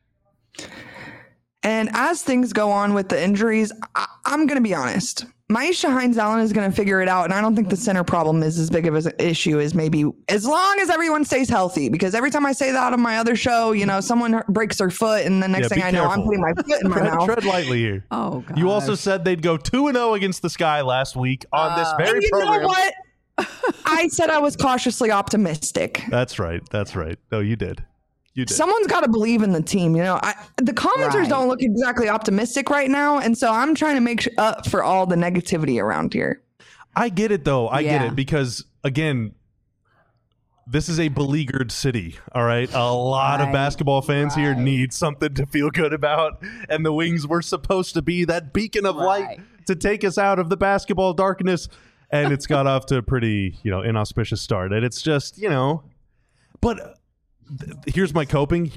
And as things go on with the injuries, I'm going to be honest. Maisha Hines-Allen is going to figure it out, and I don't think the center problem is as big of an issue as maybe as long as everyone stays healthy. Because every time I say that on my other show, someone breaks their foot, and the next thing I know, I'm putting my foot in my mouth. Tread lightly here. Oh, God. You also said they'd go 2-0 against the Sky last week on this very and you program. know what? I said I was cautiously optimistic. That's right. No, you did. Someone's got to believe in the team. The commenters don't look exactly optimistic right now. And so I'm trying to make up for all the negativity around here. I get it, though. I get it because, again, this is a beleaguered city. All right. A lot of basketball fans here need something to feel good about. And the Wings were supposed to be that beacon of light to take us out of the basketball darkness. And it's got off to a pretty, inauspicious start. And it's just, but here's my coping.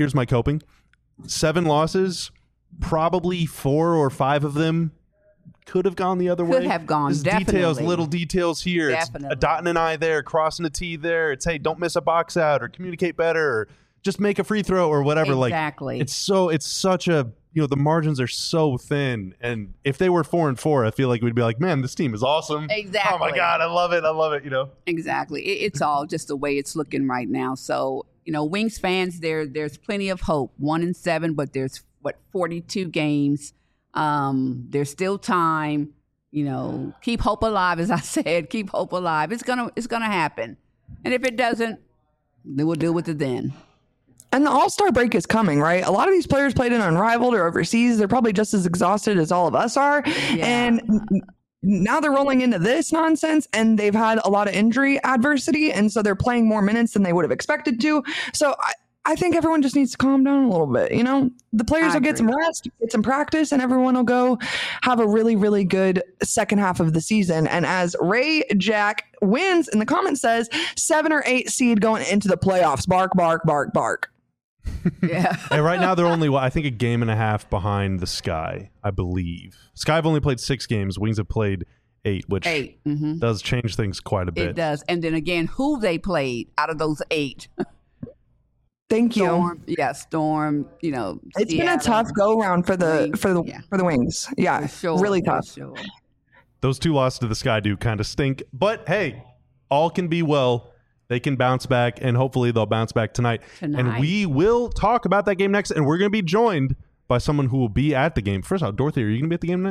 7 losses, probably 4 or 5 of them could have gone the other way. Could have gone, Just definitely. little details here. Definitely. It's dotting an I there, crossing a T there. It's, hey, don't miss a box out or communicate better or just make a free throw or whatever. Exactly. Like, it's such a, the margins are so thin. And if they were 4-4, I feel like we'd be like, man, this team is awesome. Exactly. Oh my God, I love it. Exactly. It's all just the way it's looking right now. So, Wings fans, there's plenty of hope. 1-7, but there's 42 games. There's still time. Keep hope alive, as I said. Keep hope alive. It's gonna happen. And if it doesn't, then we'll deal with it then. And the All-Star break is coming, right? A lot of these players played in Unrivaled or overseas. They're probably just as exhausted as all of us are. Yeah. And now they're rolling into this nonsense, and they've had a lot of injury adversity, and so they're playing more minutes than they would have expected to. So I think everyone just needs to calm down a little bit. The players will get some rest, get some practice, and everyone will go have a really, really good second half of the season. And as Ray Jack wins in the comments says, 7 or 8 seed going into the playoffs. Bark, bark, bark, bark. Yeah. And right now they're only, I think, a game and a half behind the Sky, I believe. Sky have only played 6 games. Wings have played 8, which does change things quite a bit. It does. And then again, who they played out of those 8. Thank you. Storm, it's been a tough go round for the Wings. Yeah, sure, really tough. Sure. Those 2 losses to the Sky do kind of stink, but hey, all can be well. They can bounce back, and hopefully they'll bounce back tonight. And we will talk about that game next, and we're going to be joined by someone who will be at the game. First of all, Dorothy, are you going to be at the game tonight?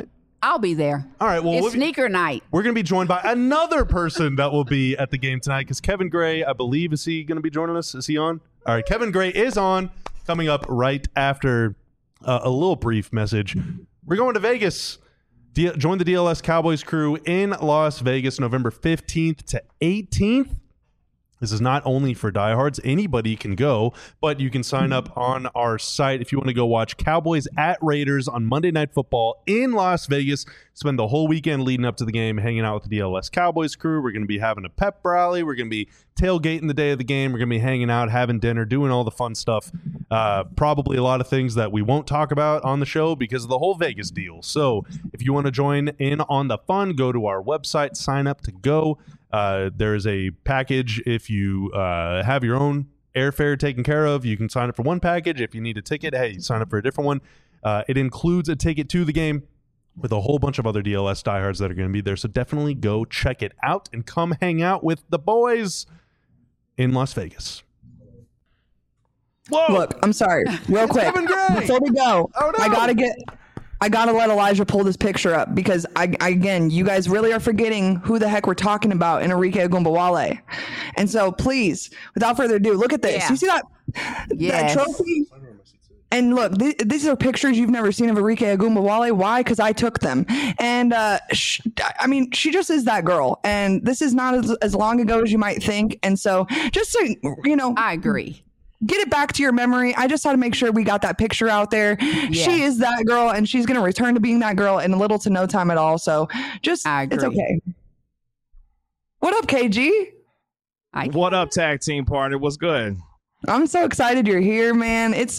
I'll be there. All right. Well, It's sneaker night. we're going to be joined by another person that will be at the game tonight because Kevin Gray, I believe, is he going to be joining us? Is he on? All right. Kevin Gray is on, coming up right after a little brief message. We're going to Vegas. Join the DLS Cowboys crew in Las Vegas, November 15th to 18th. This is not only for diehards. Anybody can go, but you can sign up on our site if you want to go watch Cowboys at Raiders on Monday Night Football in Las Vegas. Spend the whole weekend leading up to the game hanging out with the DLS Cowboys crew. We're going to be having a pep rally. We're going to be tailgating the day of the game. We're going to be hanging out, having dinner, doing all the fun stuff. Probably a lot of things that we won't talk about on the show because of the whole Vegas deal. So if you want to join in on the fun, go to our website, sign up to go. There's a package if you have your own airfare taken care of. You can sign up for one package. If you need a ticket, hey, sign up for a different one. It includes a ticket to the game with a whole bunch of other DLS diehards that are going to be there. So definitely go check it out and come hang out with the boys in Las Vegas. Whoa! Look, I'm sorry. Real quick. Before we go, oh, no. I gotta let Elijah pull this picture up because again, you guys really are forgetting who the heck we're talking about in Enrique Ogunbowale. And so please, without further ado, look at this. Yeah. You see that, that trophy? And look, these are pictures you've never seen of Enrique Ogunbowale. Why? Because I took them. And she just is that girl. And this is not as long ago as you might think. And so just to, I agree. Get it back to your memory. I just had to make sure we got that picture out there. Yeah. She is that girl, and she's going to return to being that girl in little to no time at all. So just, it's okay. What up, KG? What up, tag team partner? What's good? I'm so excited you're here, man. It's,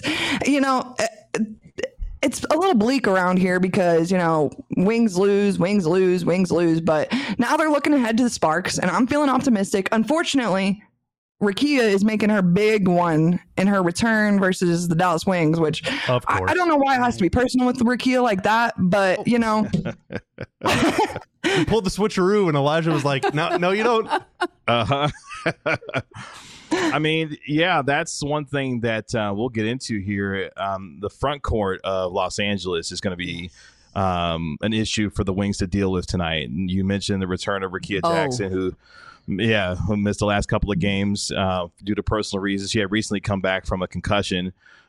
it's a little bleak around here because, wings lose. But now they're looking ahead to the Sparks, and I'm feeling optimistic. Unfortunately, Rakia is making her big one in her return versus the Dallas Wings, which I don't know why it has to be personal with Rakia like that, but We pulled the switcheroo and Elijah was like, no, you don't. Uh-huh. I mean, yeah, that's one thing that we'll get into here. The front court of Los Angeles is going to be an issue for the Wings to deal with tonight. And you mentioned the return of Rakia Jackson, who missed the last couple of games due to personal reasons. She had recently come back from a concussion.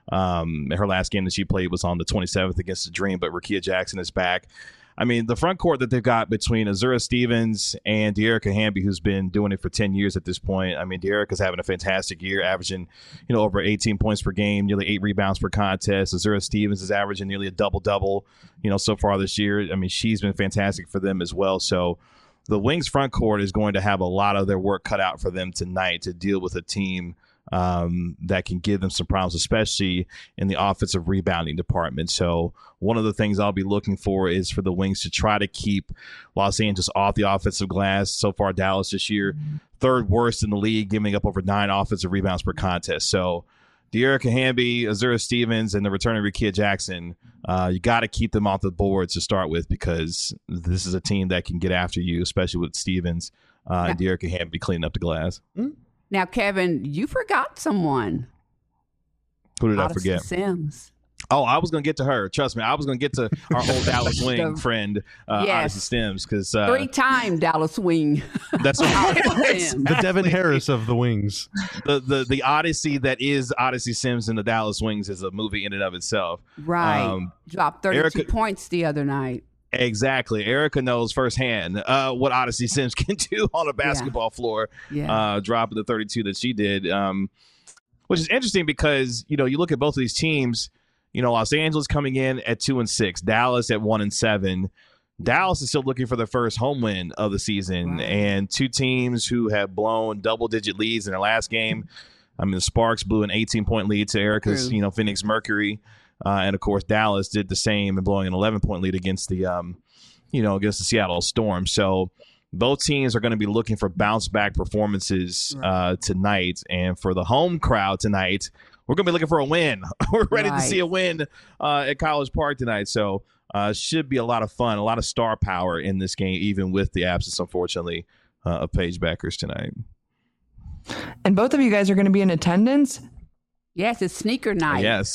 Her last game that she played was on the 27th against the Dream, but Rakia Jackson is back. I mean, the front court that they've got between Azura Stevens and De'Arica Hamby, who's been doing it for 10 years at this point. I mean, De'Arica's having a fantastic year, averaging, over 18 points per game, nearly 8 rebounds per contest. Azura Stevens is averaging nearly a double-double, so far this year. I mean, she's been fantastic for them as well. So the Wings front court is going to have a lot of their work cut out for them tonight to deal with a team that can give them some problems, especially in the offensive rebounding department. So one of the things I'll be looking for is for the Wings to try to keep Los Angeles off the offensive glass. So far, Dallas this year, third worst in the league, giving up over 9 offensive rebounds per contest. So De'Arica Hamby, Azura Stevens, and the return of Rakia Jackson, you got to keep them off the board to start with because this is a team that can get after you, especially with Stevens and De'Arica Hamby cleaning up the glass. Now, Kevin, you forgot someone. Who did I forget? Sims. Oh, I was going to get to her. Trust me, I was going to get to our old Dallas Wing friend, Odyssey Sims. Because 3-time Dallas Wing. That's right. The Devin Harris of the Wings. The Odyssey that is Odyssey Sims and the Dallas Wings is a movie in and of itself. Right. Dropped 32 points the other night. Exactly. Erica knows firsthand what Odyssey Sims can do on a basketball floor, dropping the 32 that she did, which is interesting because, you look at both of these teams, Los Angeles coming in at 2-6, Dallas at 1-7. Dallas is still looking for their first home win of the season, and two teams who have blown double-digit leads in their last game. I mean, the Sparks blew an 18-point lead to Erica's, Phoenix Mercury. And of course, Dallas did the same and blowing an 11-point lead against the, against the Seattle Storm. So both teams are going to be looking for bounce back performances tonight. And for the home crowd tonight, we're going to be looking for a win. We're ready to see a win at College Park tonight. So should be a lot of fun, a lot of star power in this game, even with the absence, unfortunately, of Paige Bueckers tonight. And both of you guys are going to be in attendance? Yes, it's sneaker night. Yes.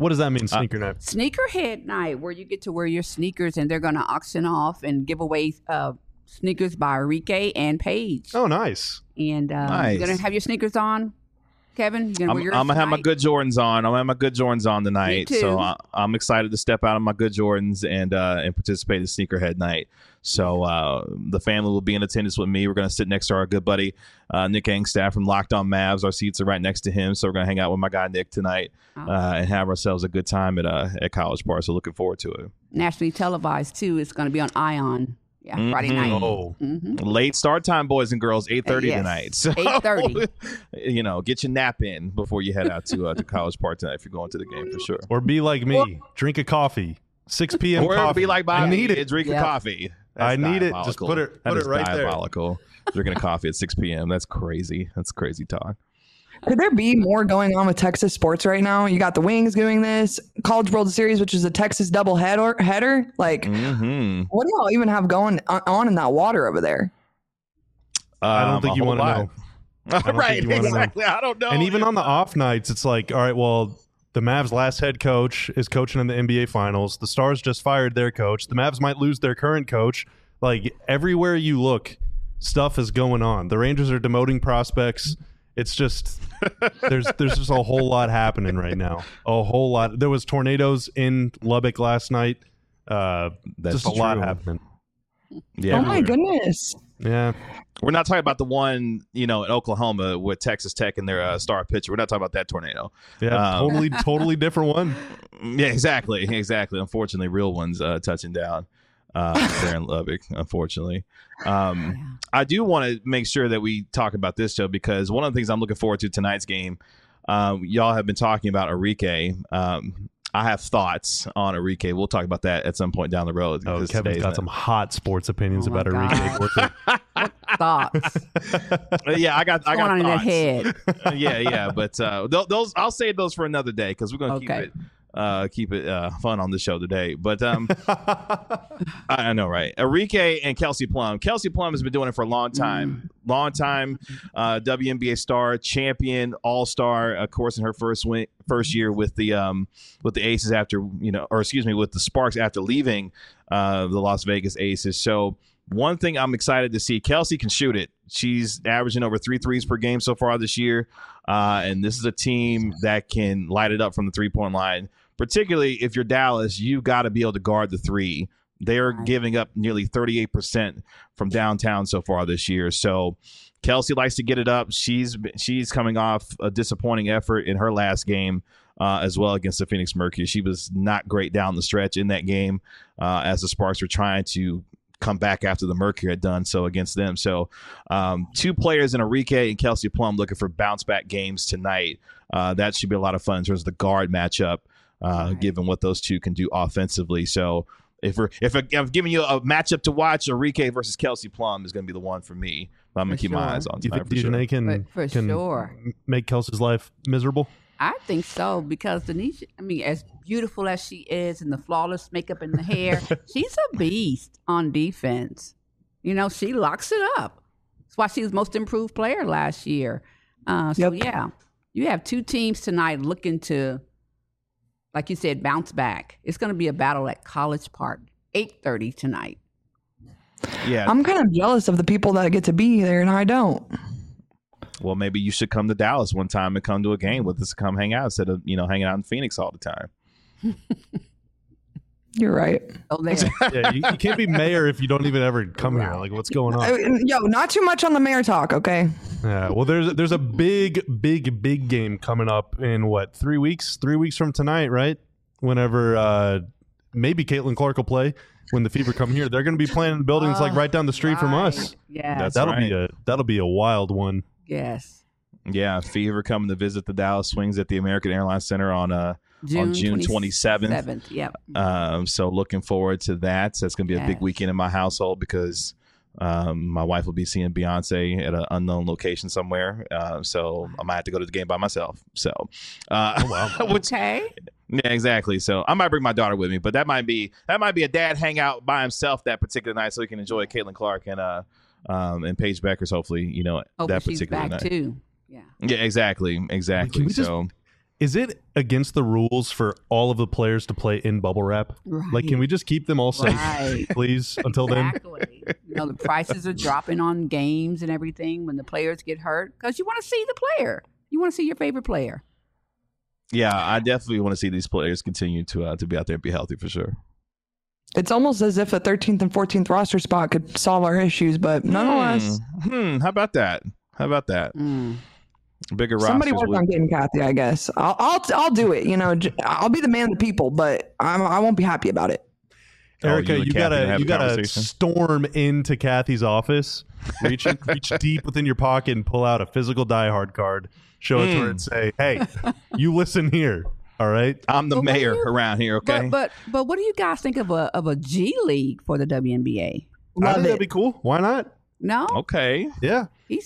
What does that mean, sneaker night? Sneakerhead night, where you get to wear your sneakers and they're going to auction off and give away sneakers by Enrique and Paige. Oh, nice. And Nice. you're going to have your sneakers on, Kevin? You're I'm wear yours going to have my tonight? good Jordans on. I'm going to have my good Jordans on tonight. Me too. So I'm excited to step out of my good Jordans and participate in Sneakerhead night. So the family will be in attendance with me. We're going to sit next to our good buddy Nick Angstaff from Locked On Mavs. Our seats are right next to him. So we're going to hang out with my guy Nick tonight and have ourselves a good time at College Park. So looking forward to it. Nationally televised, too. It's going to be on Ion. Yeah, Friday night. Oh, Late start time, boys and girls, 8:30 Yes. tonight. So, 8:30. Get your nap in before you head out to College Park tonight if you're going to the game for sure. or be like me. Drink a coffee. 6 p.m. Or coffee. be like I Bobby need it. and drink a Yep. coffee. I That's need it. Just diabolical. put it That is right there. diabolical. Drinking a coffee at 6 p.m. That's crazy. That's crazy talk. Could there be more going on with Texas sports right now? You got the Wings doing this, College World Series, which is a Texas double header. Like, Mm-hmm. what do y'all even have going on in that water over there? I don't think you want to know. don't Right, think you wanna know. exactly. I don't know. And even on the off nights, it's like, all right, well, the Mavs' last head coach is coaching in the NBA Finals. The Stars just fired their coach. The Mavs might lose their current coach. Like, everywhere you look, stuff is going on. The Rangers are demoting prospects. It's just there's just a whole lot happening right now. A whole lot. There was tornadoes in Lubbock last night. That's just a lot true. happening. Yeah, Oh my goodness. Yeah. we're not talking about the one, in Oklahoma with Texas Tech and their star pitcher. We're not talking about that tornado. Yeah. Totally different one. Yeah, exactly. Unfortunately, real ones touching down there in Lubbock, unfortunately. I do want to make sure that we talk about this, Joe, because one of the things I'm looking forward to tonight's game, y'all have been talking about Enrique. I have thoughts on Enrique. We'll talk about that at some point down the road. Oh, because Kevin's today's got some hot sports opinions Oh my about God. Enrique. Thoughts. Yeah, I got What's going on in that thoughts. head? Yeah, but those I'll save those for another day because we're gonna Okay. keep it fun on the show today. But I know, right? Enrique and Kelsey Plum. Kelsey Plum has been doing it for a long time. WNBA star, champion, all-star. Of course, in her first year with the Aces after with the Sparks after leaving the Las Vegas Aces. So one thing I'm excited to see, Kelsey can shoot it. She's averaging over 3 threes per game so far this year. And this is a team that can light it up from the three-point line. Particularly if you're Dallas, you've got to be able to guard the three. They're giving up nearly 38% from downtown so far this year. So Kelsey likes to get it up. She's coming off a disappointing effort in her last game as well against the Phoenix Mercury. She was not great down the stretch in that game as the Sparks were trying to come back after the Mercury had done so against them. So 2 players in Enrique and Kelsey Plum looking for bounce back games tonight. That should be a lot of fun in terms of the guard matchup, given what those two can do offensively. So if I'm giving you a matchup to watch, Enrique versus Kelsey Plum is going to be the one for me. I'm going to keep my eyes on Do you tonight think for sure. Dejanay can For sure. make Kelsey's life miserable? I think so because Denisha, as beautiful as she is and the flawless makeup and the hair, she's a beast on defense. She locks it up. That's why she was most improved player last year. Yeah, you have 2 teams tonight looking to, like you said, bounce back. It's going to be a battle at College Park, 8:30 tonight. Yeah. I'm kind of jealous of the people that get to be there and I don't. Well, maybe you should come to Dallas one time and come to a game with us, come hang out instead of, hanging out in Phoenix all the time. You're right. Oh, there. Yeah, you can't be mayor if you don't even ever come here. Like, what's going on? Yo, not too much on the mayor talk, okay? Yeah, well, there's a big game coming up in 3 weeks? 3 weeks from tonight, right? Whenever maybe Caitlin Clark will play when the Fever come here. They're going to be playing in the buildings like right down the street from us. Yeah. That'll be a wild one. Yes. Yeah, Fever coming to visit the Dallas Swings at the American Airlines Center on June 27th. Yep. So looking forward to that. So it's going to be a big Yes. weekend in my household because my wife will be seeing Beyonce at an unknown location somewhere. So I might have to go to the game by myself. So, Okay. yeah, exactly. So I might bring my daughter with me, but that might be a dad hangout by himself that particular night, so he can enjoy Caitlin Clark and Paige Beckers. Hopefully, Hopefully that she's particular back night. too. Yeah. Yeah, exactly. Can we just- is it against the rules for all of the players to play in bubble wrap? Right. Like, can we just keep them all safe, Right. please, until then? Exactly. The prices are dropping on games and everything when the players get hurt because you want to see the player. You want to see your favorite player. Yeah, I definitely want to see these players continue to be out there and be healthy for sure. It's almost as if a 13th and 14th roster spot could solve our issues, but nonetheless, How about that? Bigger somebody rosters work on getting Kathy. I guess I'll do it. I'll be the man of the people, but I won't be happy about it. Erica, you and you Kathy gotta have a conversation? storm into Kathy's office, reach deep within your pocket and pull out a physical Die Hard card, show it to her and say, "Hey, you listen here, all right? I'm the But what mayor do you- around here, okay? But what do you guys think of a G League for the WNBA? I Love think it. that'd be cool. Why not? No, Okay. Yeah,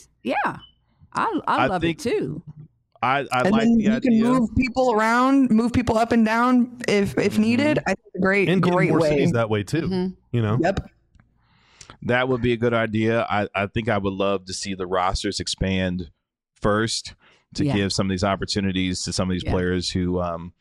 I love think- it too. I And like then the you idea. can move people around, move people up and down if needed. I think it's a great and get great more way. cities that way too. Mhm. You know, Yep. That would be a good idea. I think I would love to see the rosters expand first to Yeah. give some of these opportunities to some of these Yeah. players who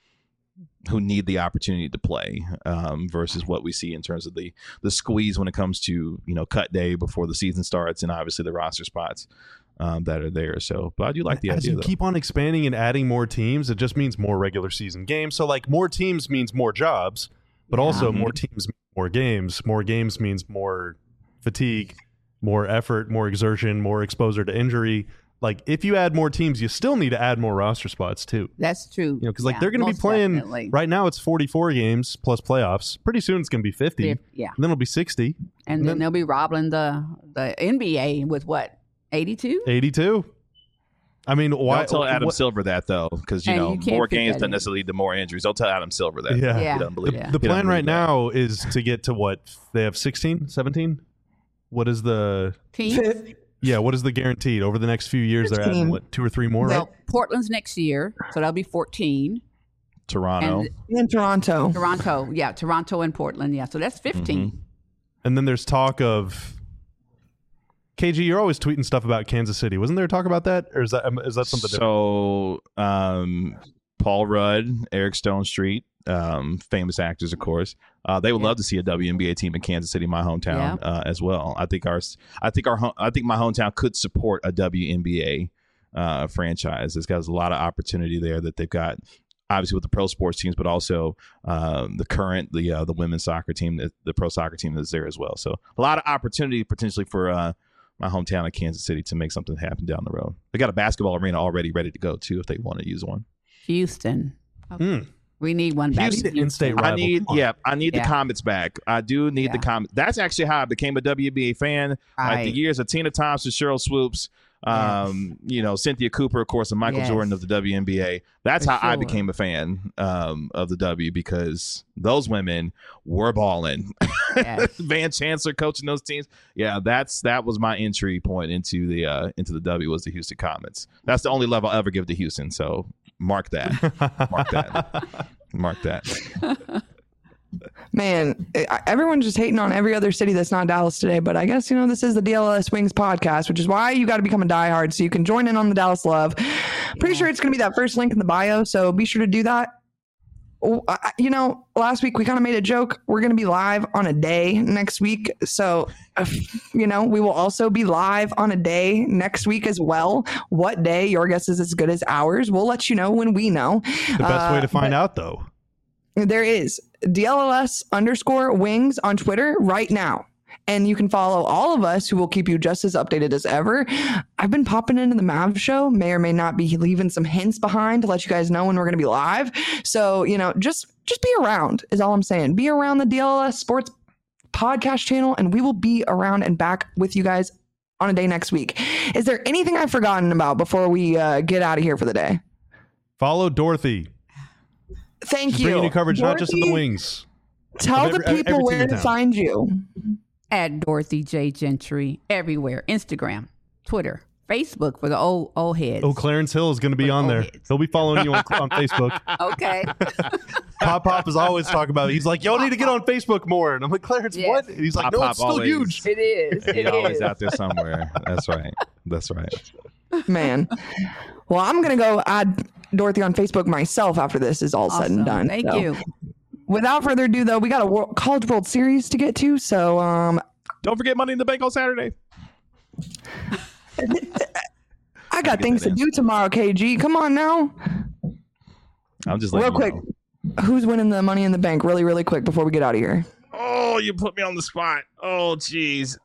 need the opportunity to play versus what we see in terms of the squeeze when it comes to cut day before the season starts and obviously the roster spots that are there. So, but I do like the as idea. you Though. keep on expanding and adding more teams, it just means more regular season games. So, like, more teams means more jobs, but also more teams, more games. More games means more fatigue, more effort, more exertion, more exposure to injury. Like, if you add more teams, you still need to add more roster spots too. That's true. Because they're going to be playing definitely. right now. It's 44 games plus playoffs. Pretty soon it's going to be 50. Yeah, And then it'll be 60, and then they'll be robbing the NBA with what 82. 82. I mean, why? Don't tell Adam what- Silver that though, because And you can't more fit games that doesn't in. necessarily lead to more injuries. Don't tell Adam Silver that. Yeah. Yeah. He doesn't believe Yeah. The he doesn't plan right believe that. now is to get to what? They have 16, 17? What is the... Teams. Yeah, what is the guaranteed? Over the next few years, they're adding, 15. what, 2 or 3 more, Well, right? Portland's next year, so that'll be 14. Toronto. And In Toronto. Toronto and Portland. Yeah, so that's 15. And then there's talk of... KG, you're always tweeting stuff about Kansas City. Wasn't there talk about that? Or is that something different? So, Paul Rudd, Eric Stone Street, famous actors, of course. They would love to see a WNBA team in Kansas City, my hometown, as well. I think my hometown could support a WNBA franchise. It's got a lot of opportunity there that they've got. Obviously with the pro sports teams, but also the women's soccer team, the pro soccer team that's there as well. So a lot of opportunity potentially for my hometown of Kansas City to make something happen down the road. They got a basketball arena already ready to go too if they want to use one. Houston. We need one back. Houston, in in-state Houston. rival. I need the Yeah. Comets back. I do need the Comets. That's actually how I became a WNBA fan. Like Right. the years of Tina Thompson, Cheryl Swoops, Cynthia Cooper, of course, and Michael Yes. Jordan of the WNBA. That's For how I sure. became a fan of the W, because those women were balling. Yes. Van Chancellor coaching those teams. Yeah, that was my entry point into the W, was the Houston Comets. That's the only love I'll ever give to Houston. So mark that. Mark that. Mark that. Man, everyone's just hating on every other city that's not Dallas today. But I guess, this is the DLS Wings podcast, which is why you got to become a diehard so you can join in on the Dallas love. Pretty sure it's going to be that first link in the bio. So be sure to do that. Last week we kind of made a joke. We're going to be live on a day next week. So, we will also be live on a day next week as well. What day? Your guess is as good as ours. We'll let you know when we know. The best way to find out, though. There is DLLS_wings on Twitter right now. And you can follow all of us, who will keep you just as updated as ever. I've been popping into the Mav show, may or may not be leaving some hints behind to let you guys know when we're going to be live. So, just be around is all I'm saying. Be around the DLS Sports podcast channel, and we will be around and back with you guys on a day next week. Is there anything I've forgotten about before we get out of here for the day? Follow Dorothy. Thank She's you. bringing you coverage, not just of the Dorothy, Wings. Tell of the every people team where in to town. find you. At Dorothy J. Gentry everywhere. Instagram, Twitter, Facebook for the old heads. Oh, Clarence Hill is going to be on there. heads. He'll be following you on Facebook. Okay. Pop is always talking about it. He's like, y'all need to get on Facebook more. And I'm like, Clarence, Yes. what? And he's like, Pop no, Pop it's still always- huge. It is. He's always out there somewhere. That's right. That's right. Man. Well, I'm going to go add Dorothy on Facebook myself after this is all said and done. Thank So, you. without further ado, though, we got a College World Series to get to. So Don't forget Money in the Bank on Saturday. I got things to do tomorrow, KG. Come on now. I'm just Real letting quick. you know. Who's winning the Money in the Bank really, really quick before we get out of here? Oh, you put me on the spot. Oh, geez.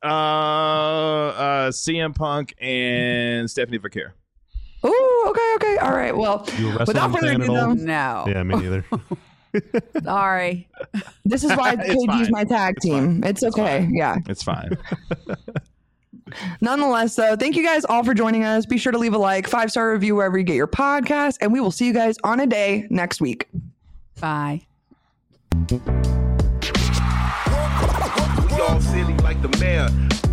CM Punk and Stephanie Vaquer. Oh, okay. All right. Well, You a wrestling without further fan ado, at all? though, No. Yeah, me neither. Sorry. this is why It's KG's fine. my tag team. It's okay. Yeah. It's fine. Nonetheless, though, thank you guys all for joining us. Be sure to leave a like, 5-star review wherever you get your podcast, and we will see you guys on a day next week. Bye. We all silly like the mayor.